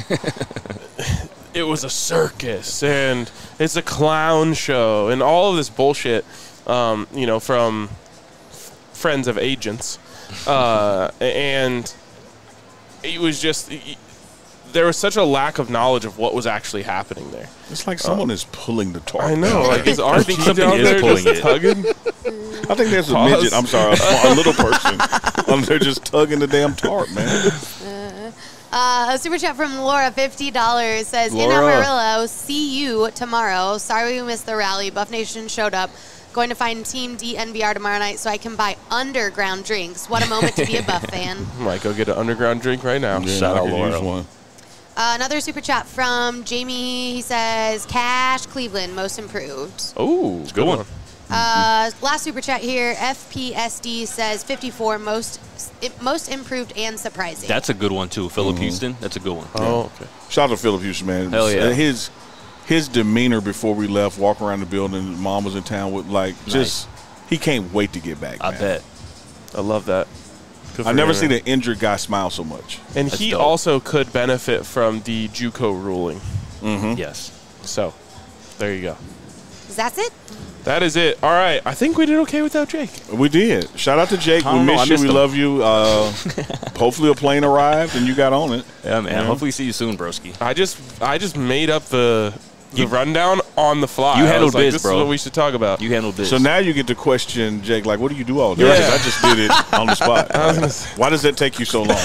it was a circus and it's a clown show and all of this bullshit, um, you know, from friends of agents. Uh, and it was just, there was such a lack of knowledge of what was actually happening there. It's like someone is pulling the tarp. I know. Like, is I Archie think something down is there pulling just it. tugging? I think there's a Pause. midget. I'm sorry, a, a little person. um, they're just tugging the damn tarp, man. Uh, a super chat from Laura, fifty dollars, says, in Laura. Amarillo, see you tomorrow. Sorry we missed the rally. Buff Nation showed up. Going to find Team D N V R tomorrow night so I can buy underground drinks. What a moment to be a Buff fan. Might go get an underground drink right now. Yeah, Shout I out could Laura. use one. Uh, another super chat from Jamie. He says, Cash Cleveland, most improved. Oh, Good one. Uh, last super chat here. F P S D says fifty-four, most most improved and surprising. That's a good one, too. Philip Houston, that's a good one. Oh, okay. Shout out to Philip Houston, man. Hell yeah. His his demeanor before we left, walk around the building, mom was in town with like Nice. just he can't wait to get back. I man. bet. I love that. Good I for never him, seen man. an injured guy smile so much. And That's he dope. also could benefit from the JUCO ruling. Mm-hmm. Yes. So, there you go. That's it? That is it. All right. I think we did okay without Jake. We did. Shout out to Jake. I We don't know, I miss you. missed We him. love you. Uh, hopefully a plane arrived and you got on it. Yeah, man. Yeah. Hopefully see you soon, broski. I just I just made up the the rundown on the fly. You I handled was like, biz, this bro. is what we should talk about. You handled this. So now you get to question Jake, like, what do you do all day? Yeah. 'Cause I just did it on the spot. I was gonna say- Why does that take you so long?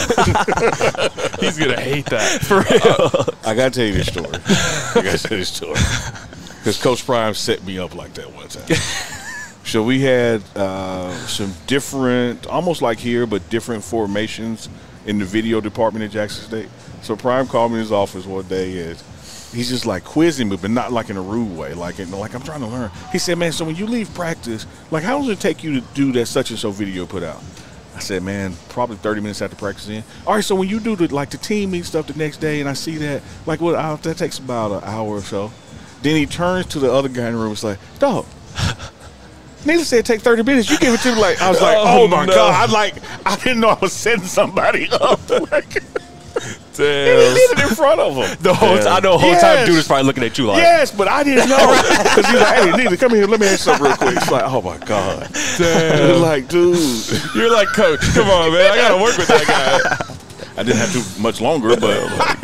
He's going to hate that. For real. I got to tell you this story. I got to tell you this story. Because Coach Prime set me up like that one time. So we had uh, some different, almost like here, but different formations in the video department at Jackson State. So Prime called me in his office one day and he's just like quizzing me, but not like in a rude way. Like, in, like I'm trying to learn. He said, man, so when you leave practice, like how long does it take you to do that such and so video put out? I said, man, probably thirty minutes after practice in. All right, so when you do the, like the team meet stuff the next day and I see that, like what, I, that takes about an hour or so. Then he turns to the other guy in the room and was like, dog, Needless to say, it take thirty minutes. You give it to me like, I was like, oh, Oh, my no. God. I like, I didn't know I was setting somebody up. Like, Damn. he did it in front of him. The whole time, I know the whole time, dude is probably looking at you like, Yes, but I didn't know. Because he's like, hey, Neely, come here. Let me ask you something real quick. It's like, oh, my God. Damn. Like, dude. You're like, Coach, come on, man. I got to work with that guy. I didn't have to much longer, but.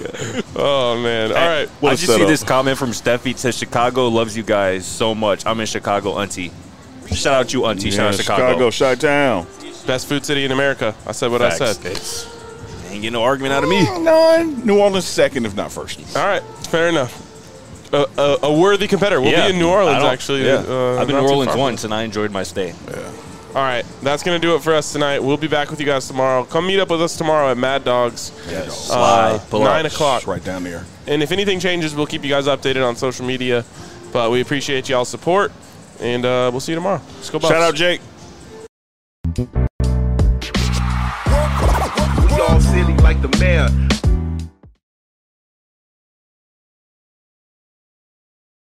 Oh, man. All right. I just see this comment from Steffi. It says, Chicago loves you guys so much. I'm in Chicago, auntie. Shout out you, auntie. Shout Yeah, out Chicago. Chicago, Chi-Town. Best food city in America. I said what Facts. I said. It's, ain't getting no argument out of me. None. New Orleans second, if not first. All right. Fair enough. A, a, a worthy competitor. We'll Yeah. be in New I Orleans, don't- actually. Yeah. Uh, I've been not to New too Orleans far. once, and I enjoyed my stay. Yeah. All right. That's going to do it for us tonight. We'll be back with you guys tomorrow. Come meet up with us tomorrow at Mad Dogs. Yes. Uh, Pull nine up. o'clock. It's right down there. And if anything changes, we'll keep you guys updated on social media. But we appreciate y'all's support. And uh, we'll see you tomorrow. Let's go, Bucks. Shout out, Jake. We all silly like the mayor.